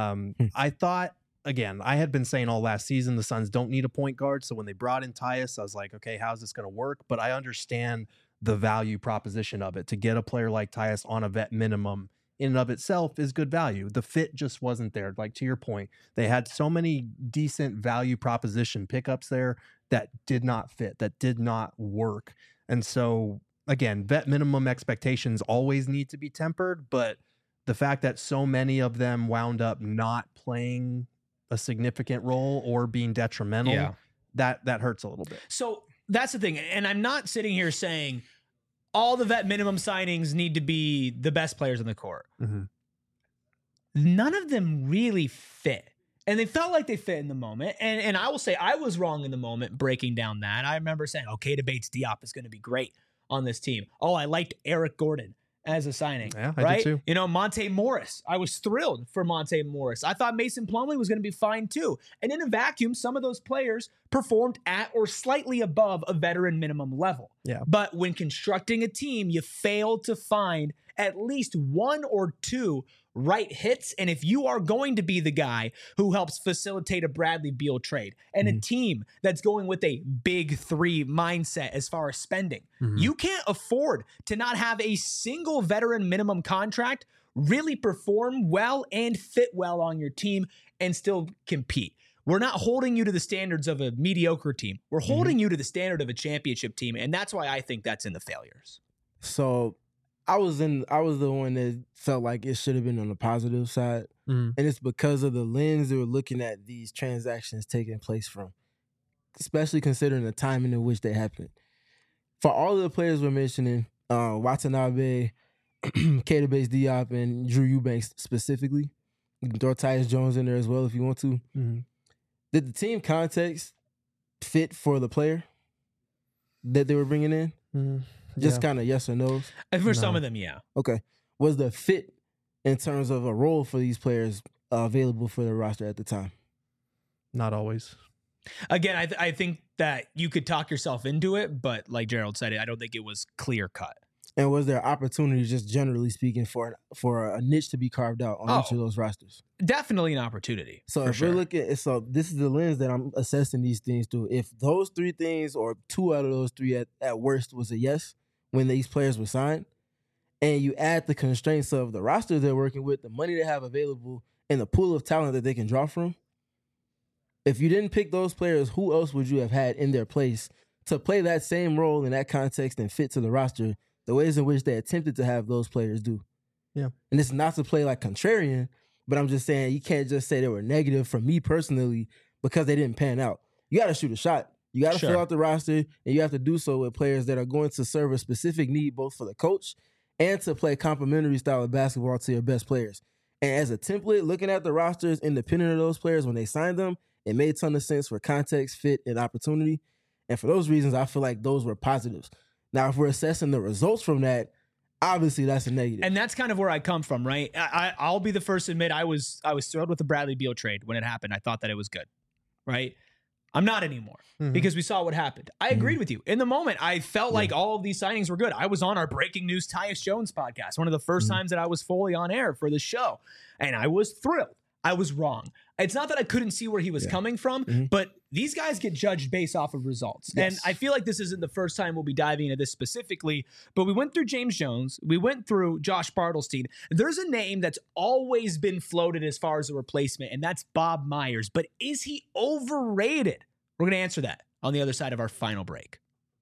I thought, again, I had been saying all last season, the Suns don't need a point guard. So when they brought in Tyus, I was like, okay, how's this going to work? But I understand the value proposition of it. To get a player like Tyus on a vet minimum in and of itself is good value. The fit just wasn't there. Like, to your point, they had so many decent value proposition pickups there that did not fit, that did not work. And so, again, vet minimum expectations always need to be tempered, but the fact that so many of them wound up not playing a significant role or being detrimental, that hurts a little bit. So that's the thing. And I'm not sitting here saying all the vet minimum signings need to be the best players on the court. None of them really fit. And they felt like they fit in the moment. And I will say I was wrong in the moment breaking down that. I remember saying, okay, Bates Diop is going to be great on this team. Oh, I liked Eric Gordon as a signing. Yeah, I right? did too. You know, Monte Morris. I was thrilled for Monte Morris. I thought Mason Plumlee was going to be fine too. And in a vacuum, some of those players performed at or slightly above a veteran minimum level. Yeah. But when constructing a team, you fail to find at least one or two right hits. And if you are going to be the guy who helps facilitate a Bradley Beal trade and a team that's going with a big three mindset as far as spending, you can't afford to not have a single veteran minimum contract really perform well and fit well on your team and still compete. We're not holding you to the standards of a mediocre team. We're holding you to the standard of a championship team. And that's why I think that's in the failures. So I was the one that felt like it should have been on the positive side. And it's because of the lens they were looking at these transactions taking place from, especially considering the timing in which they happened. For all of the players we're mentioning, Watanabe, Keita Bates-Diop, and Drew Eubanks specifically, you can throw Tyus Jones in there as well if you want to. Did the team context fit for the player that they were bringing in? Just kind of yes or no? And for some of them, yeah. Okay. Was the fit in terms of a role for these players available for the roster at the time? Not always. Again, I think that you could talk yourself into it, but like Gerald said, I don't think it was clear cut. And was there opportunity, just generally speaking, for a niche to be carved out on each of those rosters? Definitely an opportunity. So if we're looking, so this is the lens that I'm assessing these things through. If those three things, or two out of those three at worst, was a yes when these players were signed, and you add the constraints of the roster they're working with, the money they have available, and the pool of talent that they can draw from, if you didn't pick those players, who else would you have had in their place to play that same role in that context and fit to the roster the ways in which they attempted to have those players do? Yeah. And it's not to play like contrarian, but I'm just saying you can't just say they were negative for me personally because they didn't pan out. You got to shoot a shot. You got to fill out the roster, and you have to do so with players that are going to serve a specific need both for the coach and to play complementary style of basketball to your best players. And as a template, looking at the rosters independent of those players when they signed them, it made a ton of sense for context, fit, and opportunity. And for those reasons, I feel like those were positives. Now, if we're assessing the results from that, obviously that's a negative. And that's kind of where I come from, right? I'll be the first to admit I was thrilled with the Bradley Beal trade when it happened. I thought that it was good, right? I'm not anymore because we saw what happened. I agreed with you. In the moment, I felt like all of these signings were good. I was on our Breaking News Tyus Jones podcast, one of the first times that I was fully on air for the show, and I was thrilled. I was wrong. It's not that I couldn't see where he was coming from, but these guys get judged based off of results. Yes. And I feel like this isn't the first time we'll be diving into this specifically, but we went through James Jones. We went through Josh Bartelstein. There's a name that's always been floated as far as a replacement, and that's Bob Myers. But is he overrated? We're going to answer that on the other side of our final break.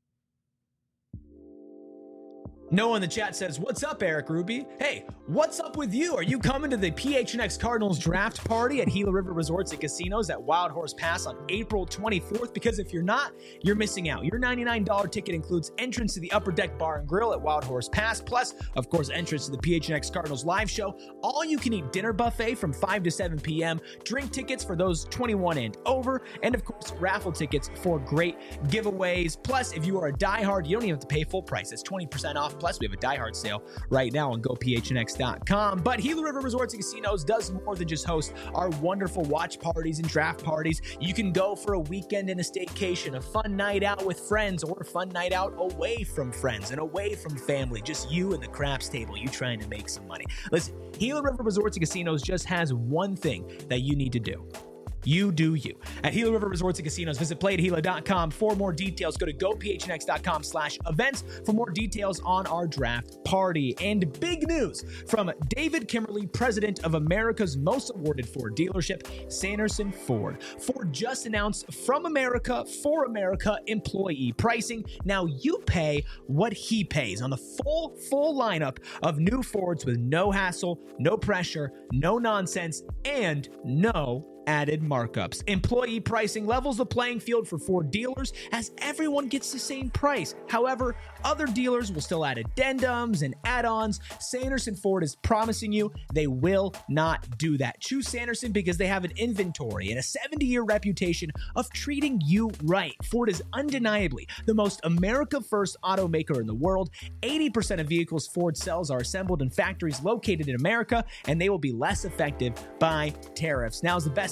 Noah in the chat says, what's up, Eric Ruby? Hey, what's up with you? Are you coming to the PHNX Cardinals draft party at Gila River Resorts and Casinos at Wild Horse Pass on April 24th? Because if you're not, you're missing out. Your $99 ticket includes entrance to the Upper Deck Bar and Grill at Wild Horse Pass, plus, of course, entrance to the PHNX Cardinals live show, all-you-can-eat dinner buffet from 5 to 7 p.m., drink tickets for those 21 and over, and, of course, raffle tickets for great giveaways. Plus, if you are a diehard, you don't even have to pay full price. It's 20% off. Plus, we have a diehard sale right now on GoPHNX.com. But Gila River Resorts and Casinos does more than just host our wonderful watch parties and draft parties. You can go for a weekend in a staycation, a fun night out with friends, or a fun night out away from friends and away from family. Just you and the craps table, you trying to make some money. Listen, Gila River Resorts and Casinos just has one thing that you need to do. You do you. At Gila River Resorts and Casinos, visit playatgila.com for more details. Go to gophnx.com/events for more details on our draft party. And big news from David Kimberly, president of America's most awarded Ford dealership, Sanderson Ford. Ford just announced From America for America employee pricing. Now you pay what he pays on the full lineup of new Fords with no hassle, no pressure, no nonsense, and no added markups. Employee pricing levels the playing field for Ford dealers as everyone gets the same price. However, other dealers will still add addendums and add-ons. Sanderson Ford is promising you they will not do that. Choose Sanderson because they have an inventory and a 70-year reputation of treating you right. Ford is undeniably the most America-first automaker in the world. 80% of vehicles Ford sells are assembled in factories located in America, and they will be less affected by tariffs. Now is the best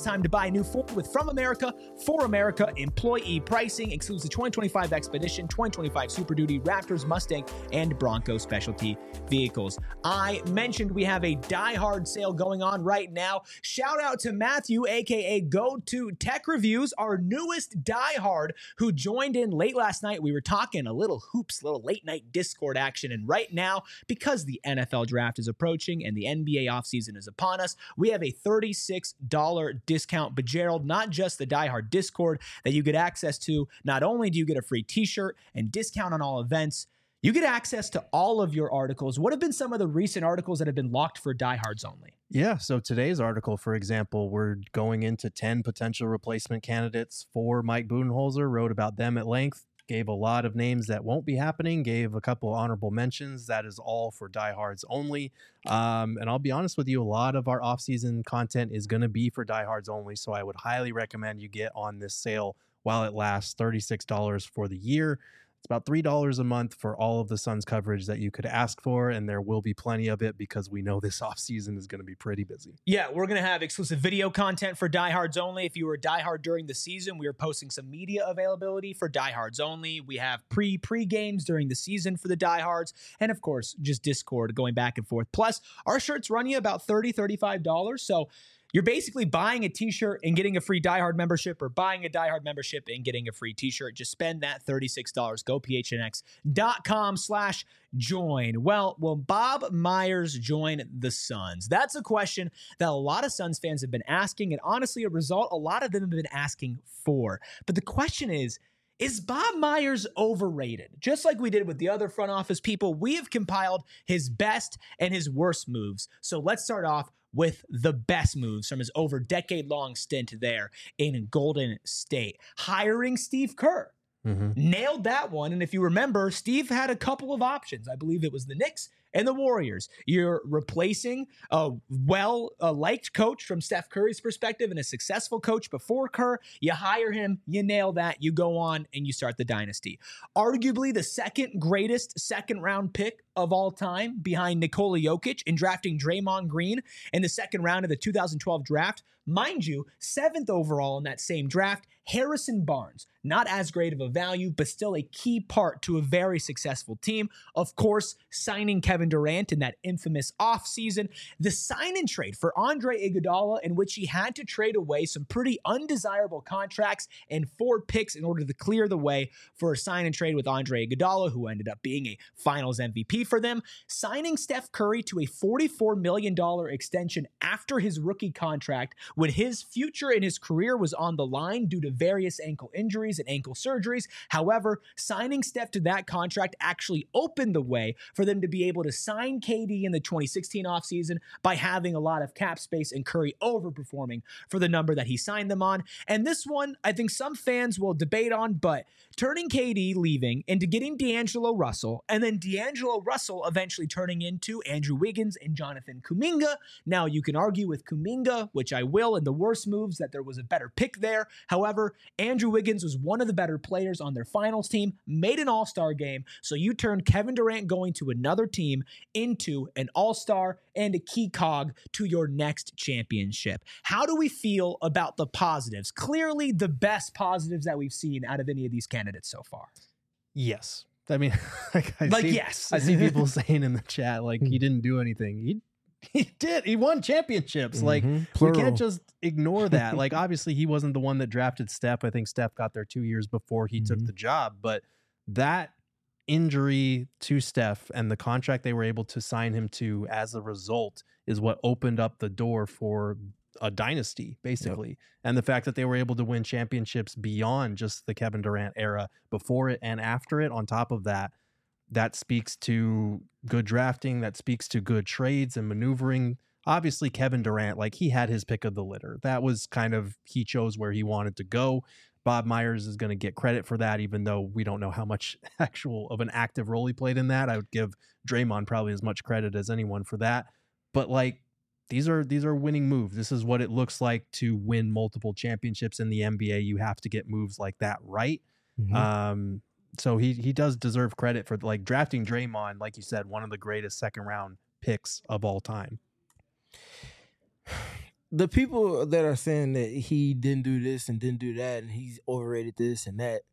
best time to buy a new Ford with From America, for America employee pricing. Excludes the 2025 Expedition, 2025 Super Duty, Raptors, Mustang, and Bronco specialty vehicles. I mentioned we have a Die Hard sale going on right now. Shout out to Matthew, aka Go To Tech Reviews, our newest Die Hard, who joined in late last night. We were talking a little hoops, little late night Discord action. And right now, because the NFL draft is approaching and the NBA offseason is upon us, we have a $36 discount. But Gerald, not just the Die Hard Discord that you get access to. Not only do you get a free t-shirt and discount on all events, you get access to all of your articles. What have been some of the recent articles that have been locked for diehards only? Yeah, so today's article, for example, we're going into 10 potential replacement candidates for Mike Budenholzer, wrote about them at length, gave a lot of names that won't be happening, gave a couple honorable mentions. That is all for diehards only. And I'll be honest with you, a lot of our off-season content is going to be for diehards only, so I would highly recommend you get on this sale while it lasts, $36 for the year. It's about $3 a month for all of the Suns coverage that you could ask for, and there will be plenty of it because we know this offseason is going to be pretty busy. Yeah, we're going to have exclusive video content for diehards only. If you were a diehard during the season, we are posting some media availability for diehards only. We have pre-games during the season for the diehards, and of course, just Discord going back and forth. Plus, our shirts run you about $30, $35, so you're basically buying a t-shirt and getting a free Die Hard membership, or buying a Die Hard membership and getting a free t-shirt. Just spend that $36. Go phnx.com/join. Well, will Bob Myers join the Suns? That's a question that a lot of Suns fans have been asking, and honestly, a result a lot of them have been asking for. But the question is Bob Myers overrated? Just like we did with the other front office people, we have compiled his best and his worst moves. So let's start off with the best moves from his over decade-long stint there in Golden State. Hiring Steve Kerr. Nailed that one. And if you remember, Steve had a couple of options. I believe it was the Knicks and the Warriors. You're replacing a well-liked coach from Steph Curry's perspective and a successful coach before Kerr. You hire him, you nail that, you go on, and you start the dynasty. Arguably the second greatest second-round pick of all time, behind Nikola Jokic, in drafting Draymond Green in the second round of the 2012 draft. Mind you, 7th overall in that same draft, Harrison Barnes. Not as great of a value, but still a key part to a very successful team. Of course, signing Kevin Durant in that infamous offseason. The sign and trade for Andre Iguodala, in which he had to trade away some pretty undesirable contracts and 4 picks in order to clear the way for a sign and trade with Andre Iguodala, who ended up being a Finals MVP for them. Signing Steph Curry to a $44 million extension after his rookie contract, when his future in his career was on the line due to various ankle injuries and ankle surgeries. However, signing Steph to that contract actually opened the way for them to be able to sign KD in the 2016 offseason by having a lot of cap space and Curry overperforming for the number that he signed them on. And this one, I think some fans will debate on, but turning KD leaving into getting D'Angelo Russell, and then D'Angelo Russell eventually turning into Andrew Wiggins and Jonathan Kuminga. Now, you can argue with Kuminga, which I will, in the worst moves, that there was a better pick there. However, Andrew Wiggins was one of the better players on their finals team, made an all-star game, so you turned Kevin Durant going to another team into an all-star and a key cog to your next championship. How do we feel about the positives? Clearly the best positives that we've seen out of any of these candidates so far. Yes. I mean, yes. I see people saying in the chat, like, he didn't do anything. He did. He won championships. Like, we can't just ignore that. Like, obviously, he wasn't the one that drafted Steph. I think Steph got there 2 years before he took the job. But that injury to Steph and the contract they were able to sign him to as a result is what opened up the door for a dynasty, basically. Yep. And the fact that they were able to win championships beyond just the Kevin Durant era, before it and after it, on top of that, that speaks to good drafting, that speaks to good trades and maneuvering. Obviously, Kevin Durant, like, he had his pick of the litter. That was kind of, he chose where he wanted to go. Bob Myers is going to get credit for that, even though we don't know how much actual of an active role he played in that. I would give Draymond probably as much credit as anyone for that. But, like, these are winning moves. This is what it looks like to win multiple championships in the NBA. You have to get moves like that right. So he does deserve credit for, like, drafting Draymond, like you said, one of the greatest second round picks of all time. the people that are saying that he didn't do this and didn't do that and he's overrated this and that,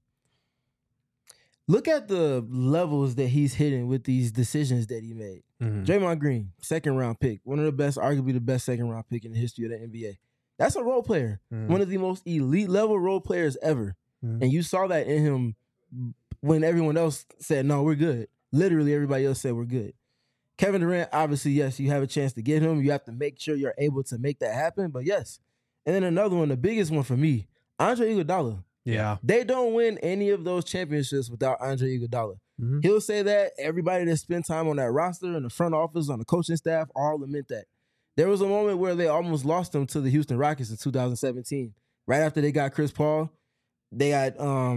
look at the levels that he's hitting with these decisions that he made. Draymond Green, second-round pick, one of the best, arguably the best second-round pick in the history of the NBA. That's a role player, one of the most elite-level role players ever. And you saw that in him when everyone else said, no, we're good. Literally everybody else said we're good. Kevin Durant, obviously, yes, you have a chance to get him. You have to make sure you're able to make that happen, but yes. And then another one, the biggest one for me, Andre Iguodala. Yeah. They don't win any of those championships without Andre Iguodala. He'll say that. Everybody that spent time on that roster, in the front office, on the coaching staff, all lament that. There was a moment where they almost lost him to the Houston Rockets in 2017. Right after they got Chris Paul, they went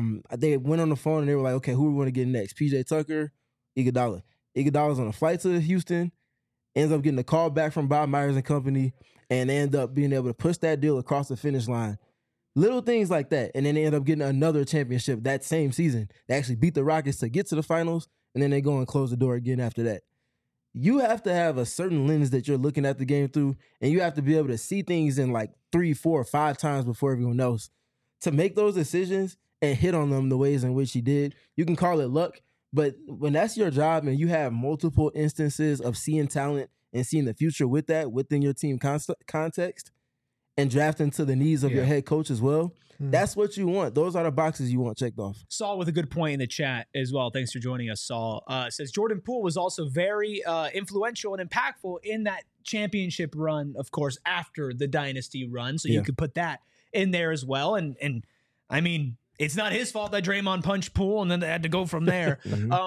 on the phone and they were like, okay, who are we going to get next? PJ Tucker, Iguodala. Iguodala's on a flight to Houston, ends up getting a call back from Bob Myers and company, and they end up being able to push that deal across the finish line. Little things like that. And then they end up getting another championship that same season. They actually beat the Rockets to get to the finals, and then they go and close the door again after that. You have to have a certain lens that you're looking at the game through, and you have to be able to see things in like 3, 4, 5 times before everyone else to make those decisions and hit on them the ways in which he did. You can call it luck, but when that's your job and you have multiple instances of seeing talent and seeing the future with that within your team context, and drafting to the needs of your head coach as well, that's what you want. Those are the boxes you want checked off. Saul with a good point in the chat as well. Thanks for joining us, Saul. Says Jordan Poole was also very influential and impactful in that championship run, of course, after the dynasty run. So you could put that in there as well. And I mean, it's not his fault that Draymond punched Poole and then they had to go from there.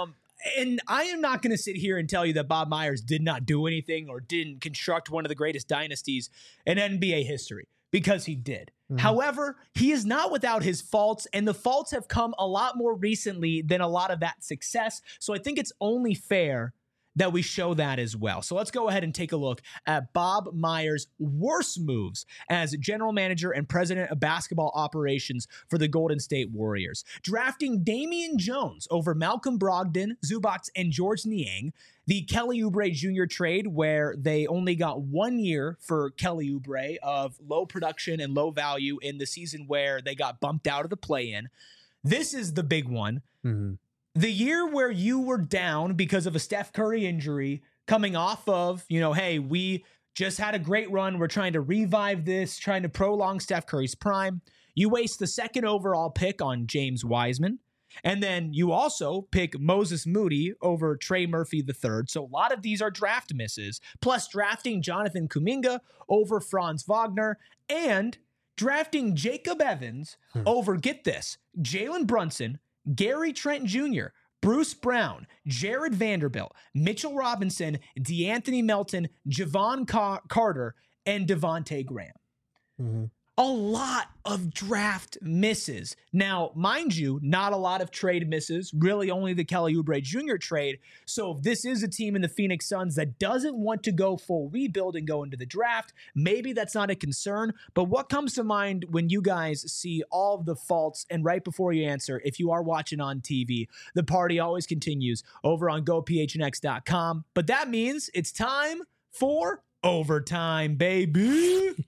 And I am not going to sit here and tell you that Bob Myers did not do anything or didn't construct one of the greatest dynasties in NBA history, because he did. However, he is not without his faults, and the faults have come a lot more recently than a lot of that success. So I think it's only fair that we show that as well. So let's go ahead and take a look at Bob Myers' worst moves as general manager and president of basketball operations for the Golden State Warriors. Drafting Damian Jones over Malcolm Brogdon, Zubac, and George Niang. The Kelly Oubre Jr. trade, where they only got 1 year for Kelly Oubre of low production and low value in the season where they got bumped out of the play-in. This is the big one. The year where you were down because of a Steph Curry injury, coming off of, hey, we just had a great run. We're trying to revive this, trying to prolong Steph Curry's prime. You waste the second overall pick on James Wiseman. And then you also pick Moses Moody over Trey Murphy III. So a lot of these are draft misses, plus drafting Jonathan Kuminga over Franz Wagner and drafting Jacob Evans over, get this, Jalen Brunson, Gary Trent Jr., Bruce Brown, Jared Vanderbilt, Mitchell Robinson, DeAnthony Melton, Javon Carter, and Devontae Graham. A lot of draft misses. Now, mind you, not a lot of trade misses, really only the Kelly Oubre Jr. trade. So if this is a team in the Phoenix Suns that doesn't want to go full rebuild and go into the draft, maybe that's not a concern. But what comes to mind when you guys see all of the faults, and right before you answer, if you are watching on TV, the party always continues over on GoPHNX.com. But that means it's time for overtime, baby.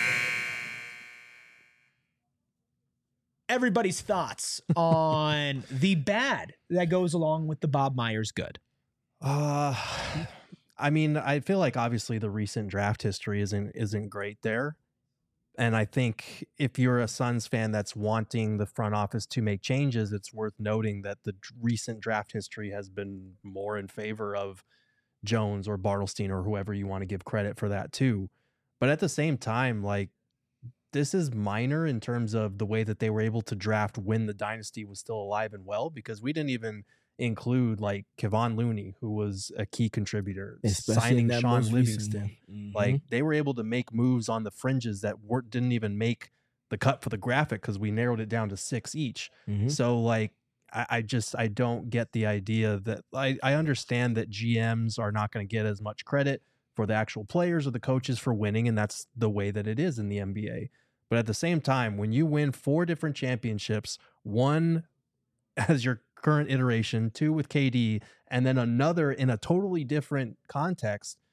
Everybody's thoughts on the bad that goes along with the Bob Myers good. I mean, I feel like obviously the recent draft history isn't great there. And I think if you're a Suns fan that's wanting the front office to make changes, it's worth noting that the recent draft history has been more in favor of Jones or Bartlestein or whoever you want to give credit for that too. But at the same time, like, this is minor in terms of the way that they were able to draft when the dynasty was still alive and well, because we didn't even include like Kevon Looney, who was a key contributor, signing Sean Livingston. Like, they were able to make moves on the fringes that didn't even make the cut for the graphic because we narrowed it down to 6 each. So like, I don't get the idea that I understand that GMs are not going to get as much credit for the actual players or the coaches for winning, and that's the way that it is in the NBA. But at the same time, when you win 4 different championships, 1 as your current iteration, 2 with KD, and then another in a totally different context,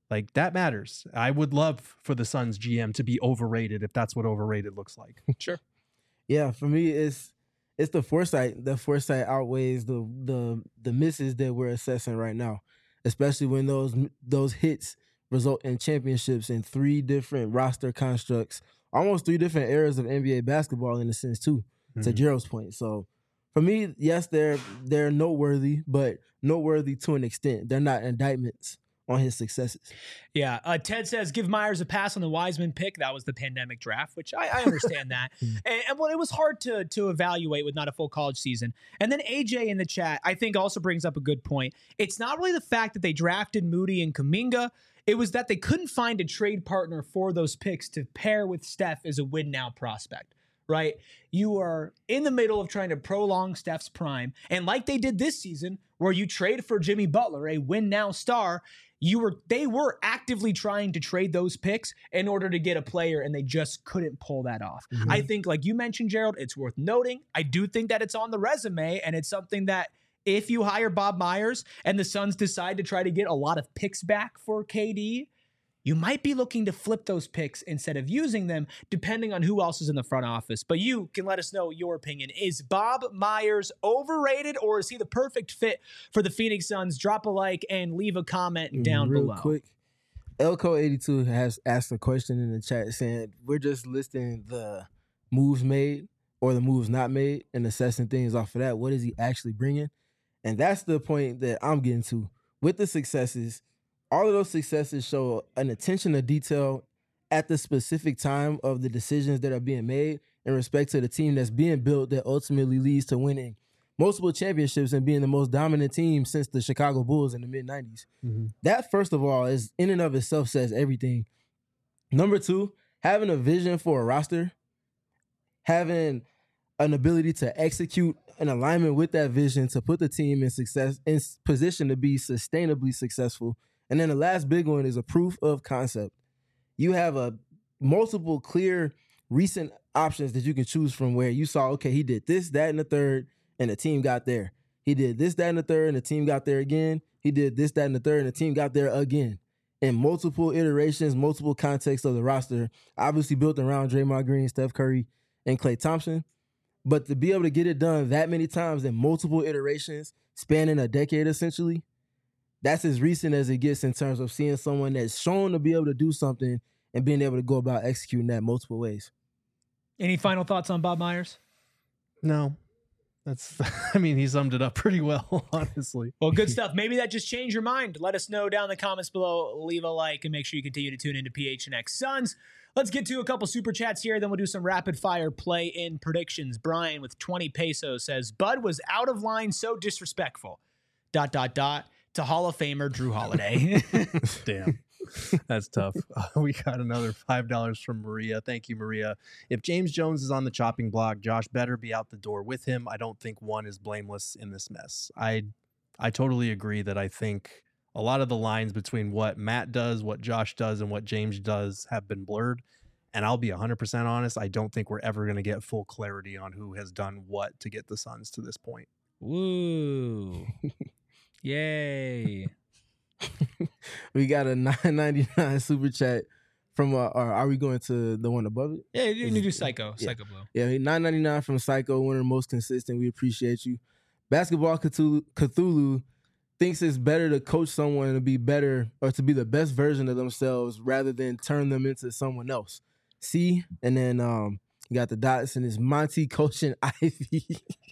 Like, that matters. I would love for the Suns GM to be overrated if that's what overrated looks like. Sure. Yeah, for me, it's the foresight. The foresight outweighs the misses that we're assessing right now, especially when those hits result in championships in 3 different roster constructs, almost 3 different eras of NBA basketball in a sense too, to Gerald's point. So for me, yes, they're noteworthy, but noteworthy to an extent. They're not indictments on his successes. Yeah. Ted says, give Myers a pass on the Wiseman pick. That was the pandemic draft, which I understand that. And well, it was hard to evaluate with not a full college season. And then AJ in the chat, I think, also brings up a good point. It's not really the fact that they drafted Moody and Kuminga. It was that they couldn't find a trade partner for those picks to pair with Steph as a win-now prospect, right? You are in the middle of trying to prolong Steph's prime. And like they did this season, where you trade for Jimmy Butler, a win-now star, they were actively trying to trade those picks in order to get a player, and they just couldn't pull that off. I think, like you mentioned, Gerald, it's worth noting. I do think that it's on the resume, and it's something that if you hire Bob Myers and the Suns decide to try to get a lot of picks back for KD, you might be looking to flip those picks instead of using them, depending on who else is in the front office. But you can let us know your opinion. Is Bob Myers overrated, or is he the perfect fit for the Phoenix Suns? Drop a like and leave a comment down below. Real quick, Elko82 has asked a question in the chat saying, we're just listing the moves made or the moves not made and assessing things off of that. What is he actually bringing? And that's the point that I'm getting to. With the successes, all of those successes show an attention to detail at the specific time of the decisions that are being made in respect to the team that's being built that ultimately leads to winning multiple championships and being the most dominant team since the Chicago Bulls in the mid-90s. That, first of all, is in and of itself says everything. Number 2, having a vision for a roster, having an ability to execute an alignment with that vision to put the team in position to be sustainably successful. And then the last big one is a proof of concept. You have multiple clear recent options that you can choose from where you saw, okay, he did this, that, and the third, and the team got there. He did this, that, and the third, and the team got there again. He did this, that, and the third, and the team got there again. In multiple iterations, multiple contexts of the roster, obviously built around Draymond Green, Steph Curry, and Klay Thompson. But to be able to get it done that many times in multiple iterations, spanning a decade essentially, that's as recent as it gets in terms of seeing someone that's shown to be able to do something and being able to go about executing that multiple ways. Any final thoughts on Bob Myers? No. He summed it up pretty well, honestly. Well, good stuff. Maybe that just changed your mind. Let us know down in the comments below. Leave a like and make sure you continue to tune into PHNX Suns. Let's get to a couple super chats here. Then we'll do some rapid fire play-in predictions. Brian with 20 pesos says, Bud was out of line, so disrespectful. ... to Hall of Famer Drew Holiday. Damn. That's tough. We got another $5 from Maria. Thank you, Maria. If James Jones is on the chopping block, Josh better be out the door with him. I don't think one is blameless in this mess. I totally agree that I think a lot of the lines between what Matt does, what Josh does, and what James does have been blurred. And I'll be 100% honest, I don't think we're ever going to get full clarity on who has done what to get the Suns to this point. Woo. Yay. We got a $9.99 super chat from or are we going to the one above it? Yeah, you can do Psycho. Yeah. Psycho Blue. Yeah, $9.99 from Psycho, one of the most consistent. We appreciate you. Basketball Cthulhu thinks it's better to coach someone to be better or to be the best version of themselves rather than turn them into someone else. See? And then you got the dots and it's Monty coaching Ivy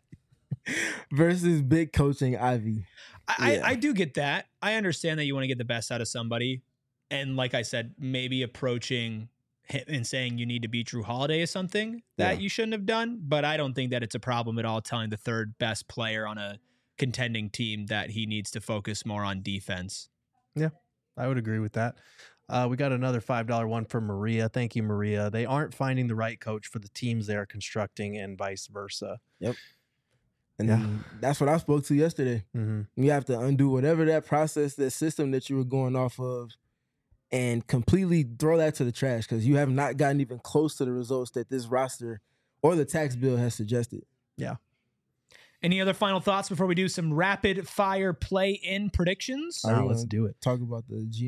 versus Big coaching Ivy. I do get that. I understand that you want to get the best out of somebody. And like I said, maybe approaching him and saying you need to beat Drew Holiday is something that you shouldn't have done. But I don't think that it's a problem at all telling the third best player on a contending team that he needs to focus more on defense. Yeah, I would agree with that. We got another $5 one from Maria. Thank you, Maria. They aren't finding the right coach for the teams they are constructing and vice versa. Yep. And that's what I spoke to yesterday. Mm-hmm. You have to undo whatever that process, that system that you were going off of and completely throw that to the trash because you have not gotten even close to the results that this roster or the tax bill has suggested. Yeah. Any other final thoughts before we do some rapid fire play-in predictions? Let's do it. Talk about the GM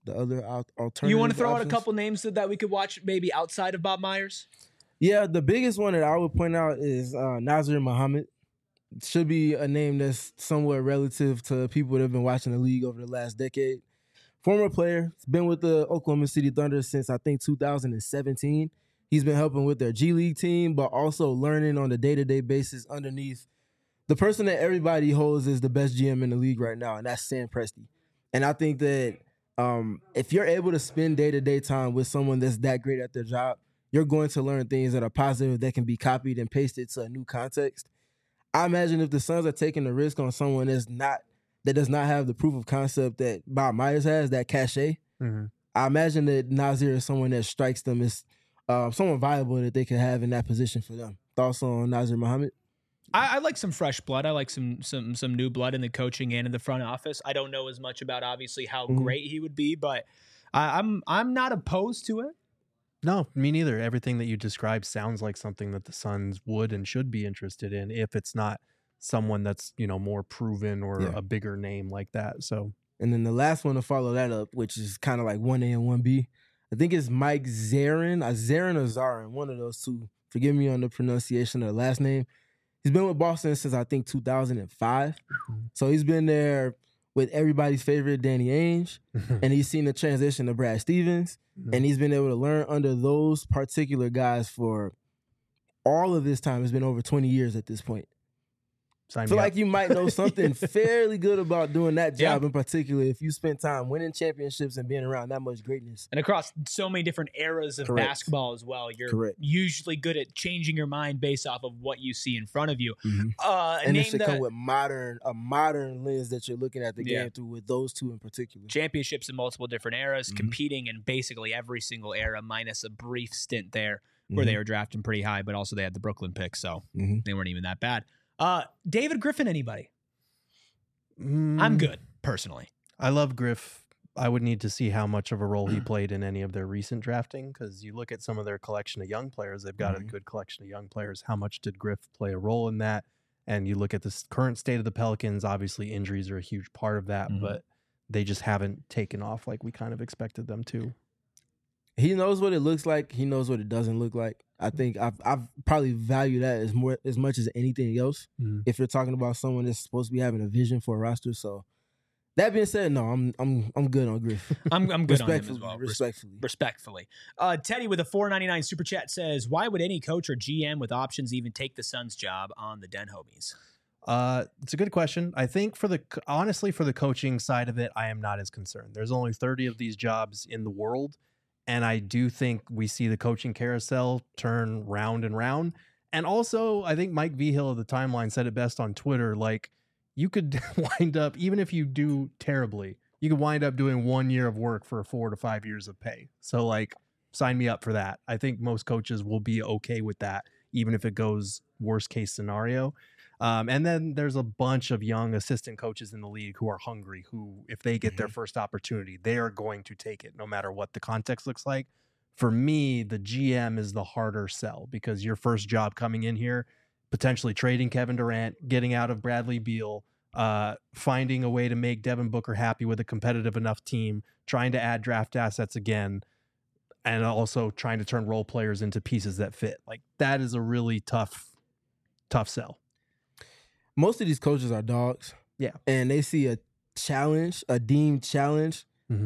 the other alternative. You want to throw options. out a couple names that we could watch maybe outside of Bob Myers? Yeah, the biggest one that I would point out is Nazir Muhammad. Should be a name that's somewhat relative to people that have been watching the league over the last decade. Former player, been with the Oklahoma City Thunder since I think 2017. He's been helping with their G League team, but also learning on a day-to-day basis underneath the person that everybody holds is the best GM in the league right now, and that's Sam Presti. And I think that if you're able to spend day-to-day time with someone that's that great at their job, you're going to learn things that are positive that can be copied and pasted to a new context. I imagine if the Suns are taking the risk on someone that does not have the proof of concept that Bob Myers has, that cachet, I imagine that Nazir is someone that strikes them as someone viable that they could have in that position for them. Thoughts on Nazir Muhammad? I like some fresh blood. I like some new blood in the coaching and in the front office. I don't know as much about obviously how great he would be, but I'm not opposed to it. No, me neither. Everything that you described sounds like something that the Suns would and should be interested in if it's not someone that's, more proven or a bigger name like that. So, and then the last one to follow that up, which is kind of like 1A and 1B, I think it's Mike Zarin or Zarin, one of those two. Forgive me on the pronunciation of the last name. He's been with Boston since I think 2005. So he's been there with everybody's favorite Danny Ainge, and he's seen the transition to Brad Stevens, and he's been able to learn under those particular guys for all of this time. It's been over 20 years at this point. I feel like you might know something fairly good about doing that job in particular if you spend time winning championships and being around that much greatness. And across so many different eras of basketball as well. You're usually good at changing your mind based off of what you see in front of you. And it should come with a modern lens that you're looking at the game through with those two in particular. Championships in multiple different eras, competing in basically every single era minus a brief stint there where they were drafting pretty high, but also they had the Brooklyn pick, so they weren't even that bad. David Griffin, anybody? I'm good, personally. I love Griff. I would need to see how much of a role he played in any of their recent drafting, because you look at some of their collection of young players, they've got a good collection of young players. How much did Griff play a role in that? And you look at this current state of the Pelicans, obviously injuries are a huge part of that, but they just haven't taken off like we kind of expected them to. He knows what it looks like. He knows what it doesn't look like. I think I've probably value that as much as anything else. If you're talking about someone that's supposed to be having a vision for a roster. So that being said, no, I'm good on Griff. I'm good on him as well. Respectfully. Teddy with a $4.99 super chat says, "Why would any coach or GM with options even take the Suns job on the Den Homies?" It's a good question. I think honestly for the coaching side of it, I am not as concerned. There's only 30 of these jobs in the world. And I do think we see the coaching carousel turn round and round. And also, I think Mike Vigil of the Timeline said it best on Twitter. Like, you could wind up, even if you do terribly, you could wind up doing 1 year of work for 4 to 5 years of pay. So, like, sign me up for that. I think most coaches will be okay with that, even if it goes worst case scenario. And then there's a bunch of young assistant coaches in the league who are hungry, who, if they get their first opportunity, they are going to take it no matter what the context looks like. For me, the GM is the harder sell, because your first job coming in here, potentially trading Kevin Durant, getting out of Bradley Beal, finding a way to make Devin Booker happy with a competitive enough team, trying to add draft assets again, and also trying to turn role players into pieces that fit. Like, that is a really tough sell. Most of these coaches are dogs. Yeah. And they see a challenge, a deemed challenge,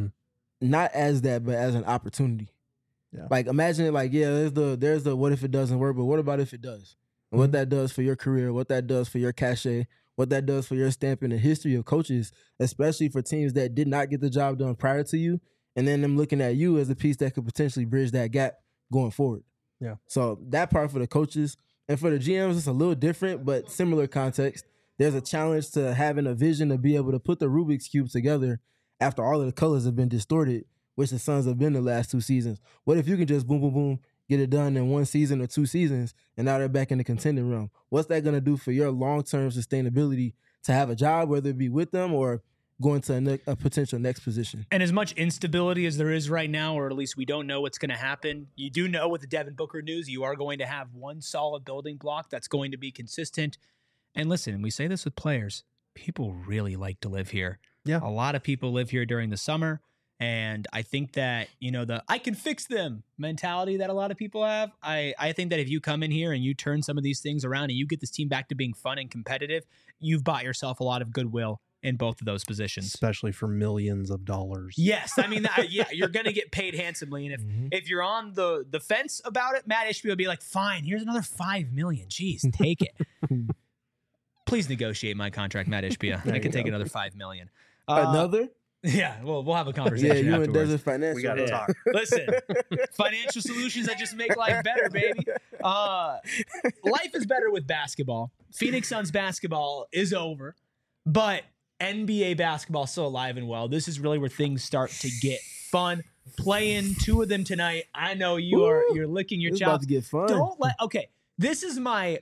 not as that, but as an opportunity. Yeah. Like, imagine it like, there's the what if it doesn't work, but what about if it does? And what that does for your career, what that does for your cachet, what that does for your stamp in the history of coaches, especially for teams that did not get the job done prior to you, and then them looking at you as a piece that could potentially bridge that gap going forward. Yeah. So that part for the coaches. And for the GMs, it's a little different, but similar context. There's a challenge to having a vision to be able to put the Rubik's Cube together after all of the colors have been distorted, which the Suns have been the last 2 seasons. What if you can just boom, boom, boom, get it done in 1 season or 2 seasons, and now they're back in the contending realm? What's that going to do for your long-term sustainability to have a job, whether it be with them or going to a potential next position? And as much instability as there is right now, or at least we don't know what's going to happen, you do know with the Devin Booker news, you are going to have one solid building block that's going to be consistent. And listen, we say this with players, people really like to live here. Yeah. A lot of people live here during the summer, And I think that, the I can fix them mentality that a lot of people have, I think that if you come in here and you turn some of these things around and you get this team back to being fun and competitive, you've bought yourself a lot of goodwill in both of those positions. Especially for millions of dollars. Yes. I mean, you're going to get paid handsomely. And if you're on the fence about it, Matt Ishbia will be like, fine, here's another $5 million. Jeez, take it. Please negotiate my contract, Matt Ishbia. I can take another $5 million. Another? Yeah, well, we'll have a conversation. Yeah, you afterwards. and Desert Financial. We got to talk. Listen, financial solutions that just make life better, baby. Life is better with basketball. Phoenix Suns basketball is over, but NBA basketball is still alive and well. This is really where things start to get fun. Playing 2 of them tonight. I know you're licking your chops. About to get fun. This is my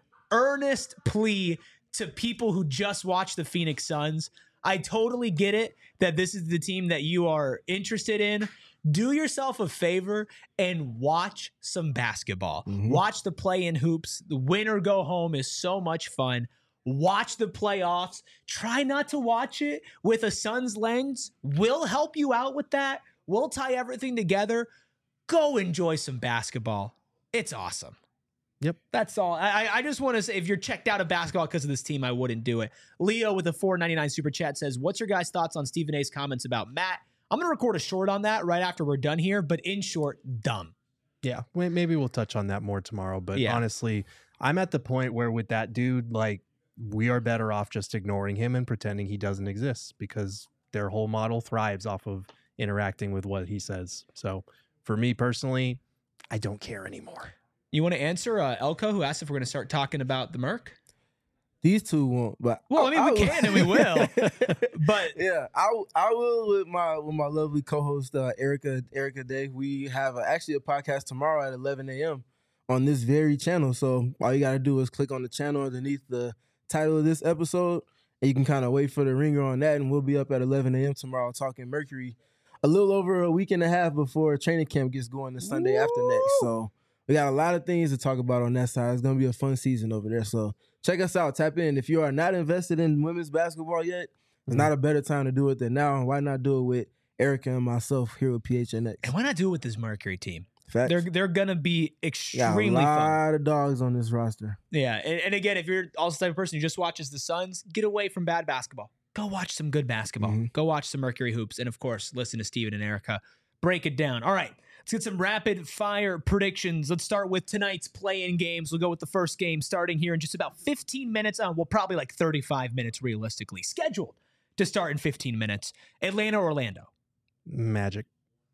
earnest plea to people who just watch the Phoenix Suns. I totally get it that this is the team that you are interested in. Do yourself a favor and watch some basketball. Watch the play-in hoops. The win or go home is so much fun. Watch the playoffs. Try not to watch it with a Suns lens. We'll help you out with that. We'll tie everything together. Go enjoy some basketball. It's awesome. Yep. That's all. I just want to say, if you're checked out of basketball because of this team, I wouldn't do it. Leo with a $4.99 super chat says, what's your guys' thoughts on Stephen A's comments about Matt? I'm going to record a short on that right after we're done here, but in short, dumb. Yeah. Maybe we'll touch on that more tomorrow. But honestly, I'm at the point where with that dude, like, we are better off just ignoring him and pretending he doesn't exist, because their whole model thrives off of interacting with what he says. So for me personally, I don't care anymore. You want to answer Elko, who asked if we're going to start talking about the Merc? These two won't, but we can and we will. But yeah, I will with my lovely co-host Erica Day. We have actually a podcast tomorrow at 11 a.m. on this very channel. So all you got to do is click on the channel underneath the title of this episode, and you can kind of wait for the ringer on that, and we'll be up at 11 a.m. tomorrow talking Mercury a little over a week and a half before training camp gets going the Sunday after next. So we got a lot of things to talk about on that side. It's going to be a fun season over there. So check us out. Tap in. If you are not invested in women's basketball yet, there's not a better time to do it than now. Why not do it with Erica and myself here with PHNX? And why not do it with this Mercury team? Facts. They're going to be extremely fun. A lot of dogs on this roster. Yeah. And again, if you're also the type of person who just watches the Suns, get away from bad basketball. Go watch some good basketball. Go watch some Mercury hoops. And of course, listen to Steven and Erica break it down. All right. Let's get some rapid fire predictions. Let's start with tonight's play-in games. We'll go with the first game starting here in just about 15 minutes. Well, probably like 35 minutes realistically. Scheduled to start in 15 minutes. Atlanta, Orlando. Magic.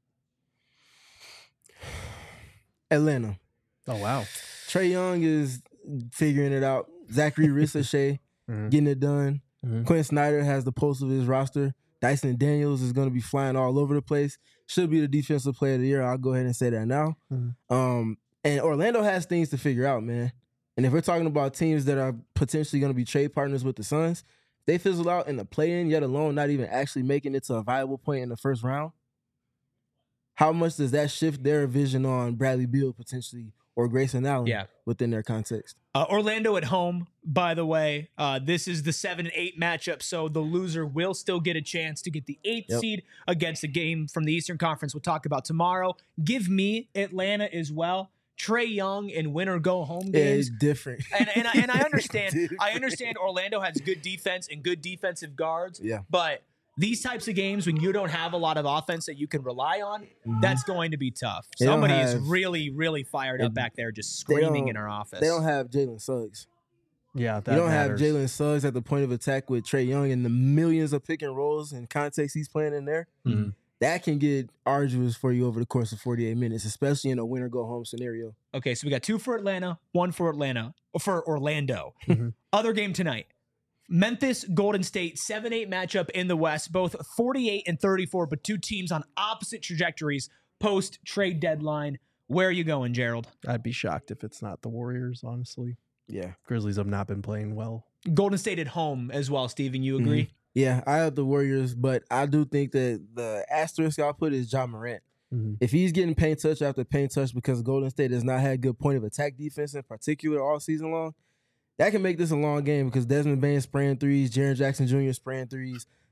Atlanta. Oh, wow. Trae Young is figuring it out. Zachary Ricochet getting it done. Quinn Snyder has the pulse of his roster. Dyson Daniels is going to be flying all over the place. Should be the defensive player of the year. I'll go ahead and say that now. And Orlando has things to figure out, man. And if we're talking about teams that are potentially going to be trade partners with the Suns, they fizzle out in the play-in, yet alone not even actually making it to a viable point in the first round. How much does that shift their vision on Bradley Beal potentially or Grayson Allen within their context? Orlando at home, by the way. This is the 7 and 8 matchup, so the loser will still get a chance to get the 8th seed against a game from the Eastern Conference we'll talk about tomorrow. Give me Atlanta as well. Trae Young in win or go home games. Yeah, it's different. And I understand. I understand Orlando has good defense and good defensive guards. Yeah. But these types of games, when you don't have a lot of offense that you can rely on, that's going to be tough. Somebody is really, really fired up back there just screaming in our office. They don't have Jalen Suggs. Yeah, you don't have Jalen Suggs at the point of attack with Trae Young and the millions of pick and rolls and context he's playing in there. That can get arduous for you over the course of 48 minutes, especially in a win or go home scenario. Okay, so we got 2 for Atlanta, 1 for Orlando. Other game tonight. Memphis, Golden State, 7-8 matchup in the West, both 48 and 34, but 2 teams on opposite trajectories post-trade deadline. Where are you going, Gerald? I'd be shocked if it's not the Warriors, honestly. Yeah. Grizzlies have not been playing well. Golden State at home as well, Steven. You agree? Yeah, I have the Warriors, but I do think that the asterisk I'll put is Ja Morant. If he's getting paint touch after paint touch because Golden State has not had good point of attack defense in particular all season long, that can make this a long game because Desmond Bain spraying threes, Jaren Jackson Jr. spraying threes.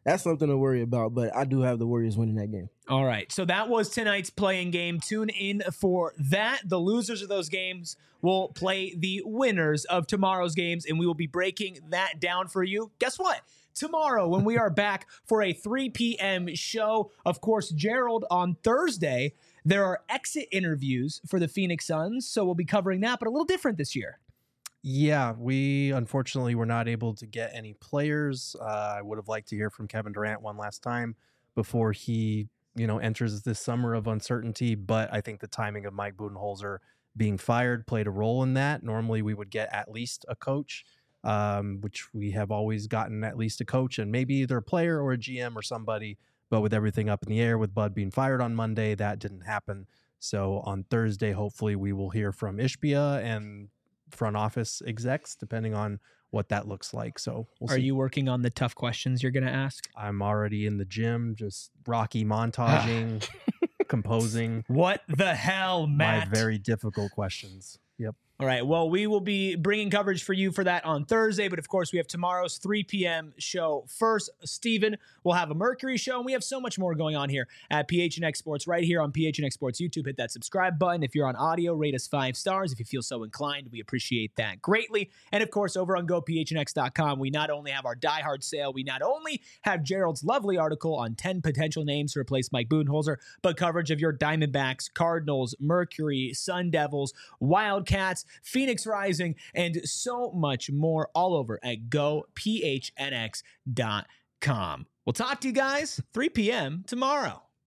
that's something to worry about. But I do have the Warriors winning that game. All right. So that was tonight's playing game. Tune in for that. The losers of those games will play the winners of tomorrow's games, and we will be breaking that down for you. Guess what? Tomorrow, when we are back for a 3 p.m. show, of course, Gerald, on Thursday, there are exit interviews for the Phoenix Suns, so we'll be covering that, but a little different this year. Yeah, we unfortunately were not able to get any players. I would have liked to hear from Kevin Durant one last time before he, enters this summer of uncertainty. But I think the timing of Mike Budenholzer being fired played a role in that. Normally, we would get at least a coach, which we have always gotten at least a coach and maybe either a player or a GM or somebody. But with everything up in the air, with Bud being fired on Monday, that didn't happen. So on Thursday, hopefully, we will hear from Ishbia and front office execs, depending on what that looks like. So we'll see. You working on the tough questions you're going to ask? I'm already in the gym, just Rocky montaging, composing. What the hell, Matt? My very difficult questions. Yep. All right. Well, we will be bringing coverage for you for that on Thursday. But of course, we have tomorrow's 3 p.m. show first. Steven will have a Mercury show. And we have so much more going on here at PHNX Sports right here on PHNX Sports YouTube. Hit that subscribe button. If you're on audio, rate us 5 stars. If you feel so inclined, we appreciate that greatly. And of course, over on GoPHNX.com, we not only have our Die Hard sale, we not only have Gerald's lovely article on 10 potential names to replace Mike Budenholzer, but coverage of your Diamondbacks, Cardinals, Mercury, Sun Devils, Wildcats, Phoenix Rising, and so much more all over at GoPHNX.com. We'll talk to you guys 3 p.m. tomorrow.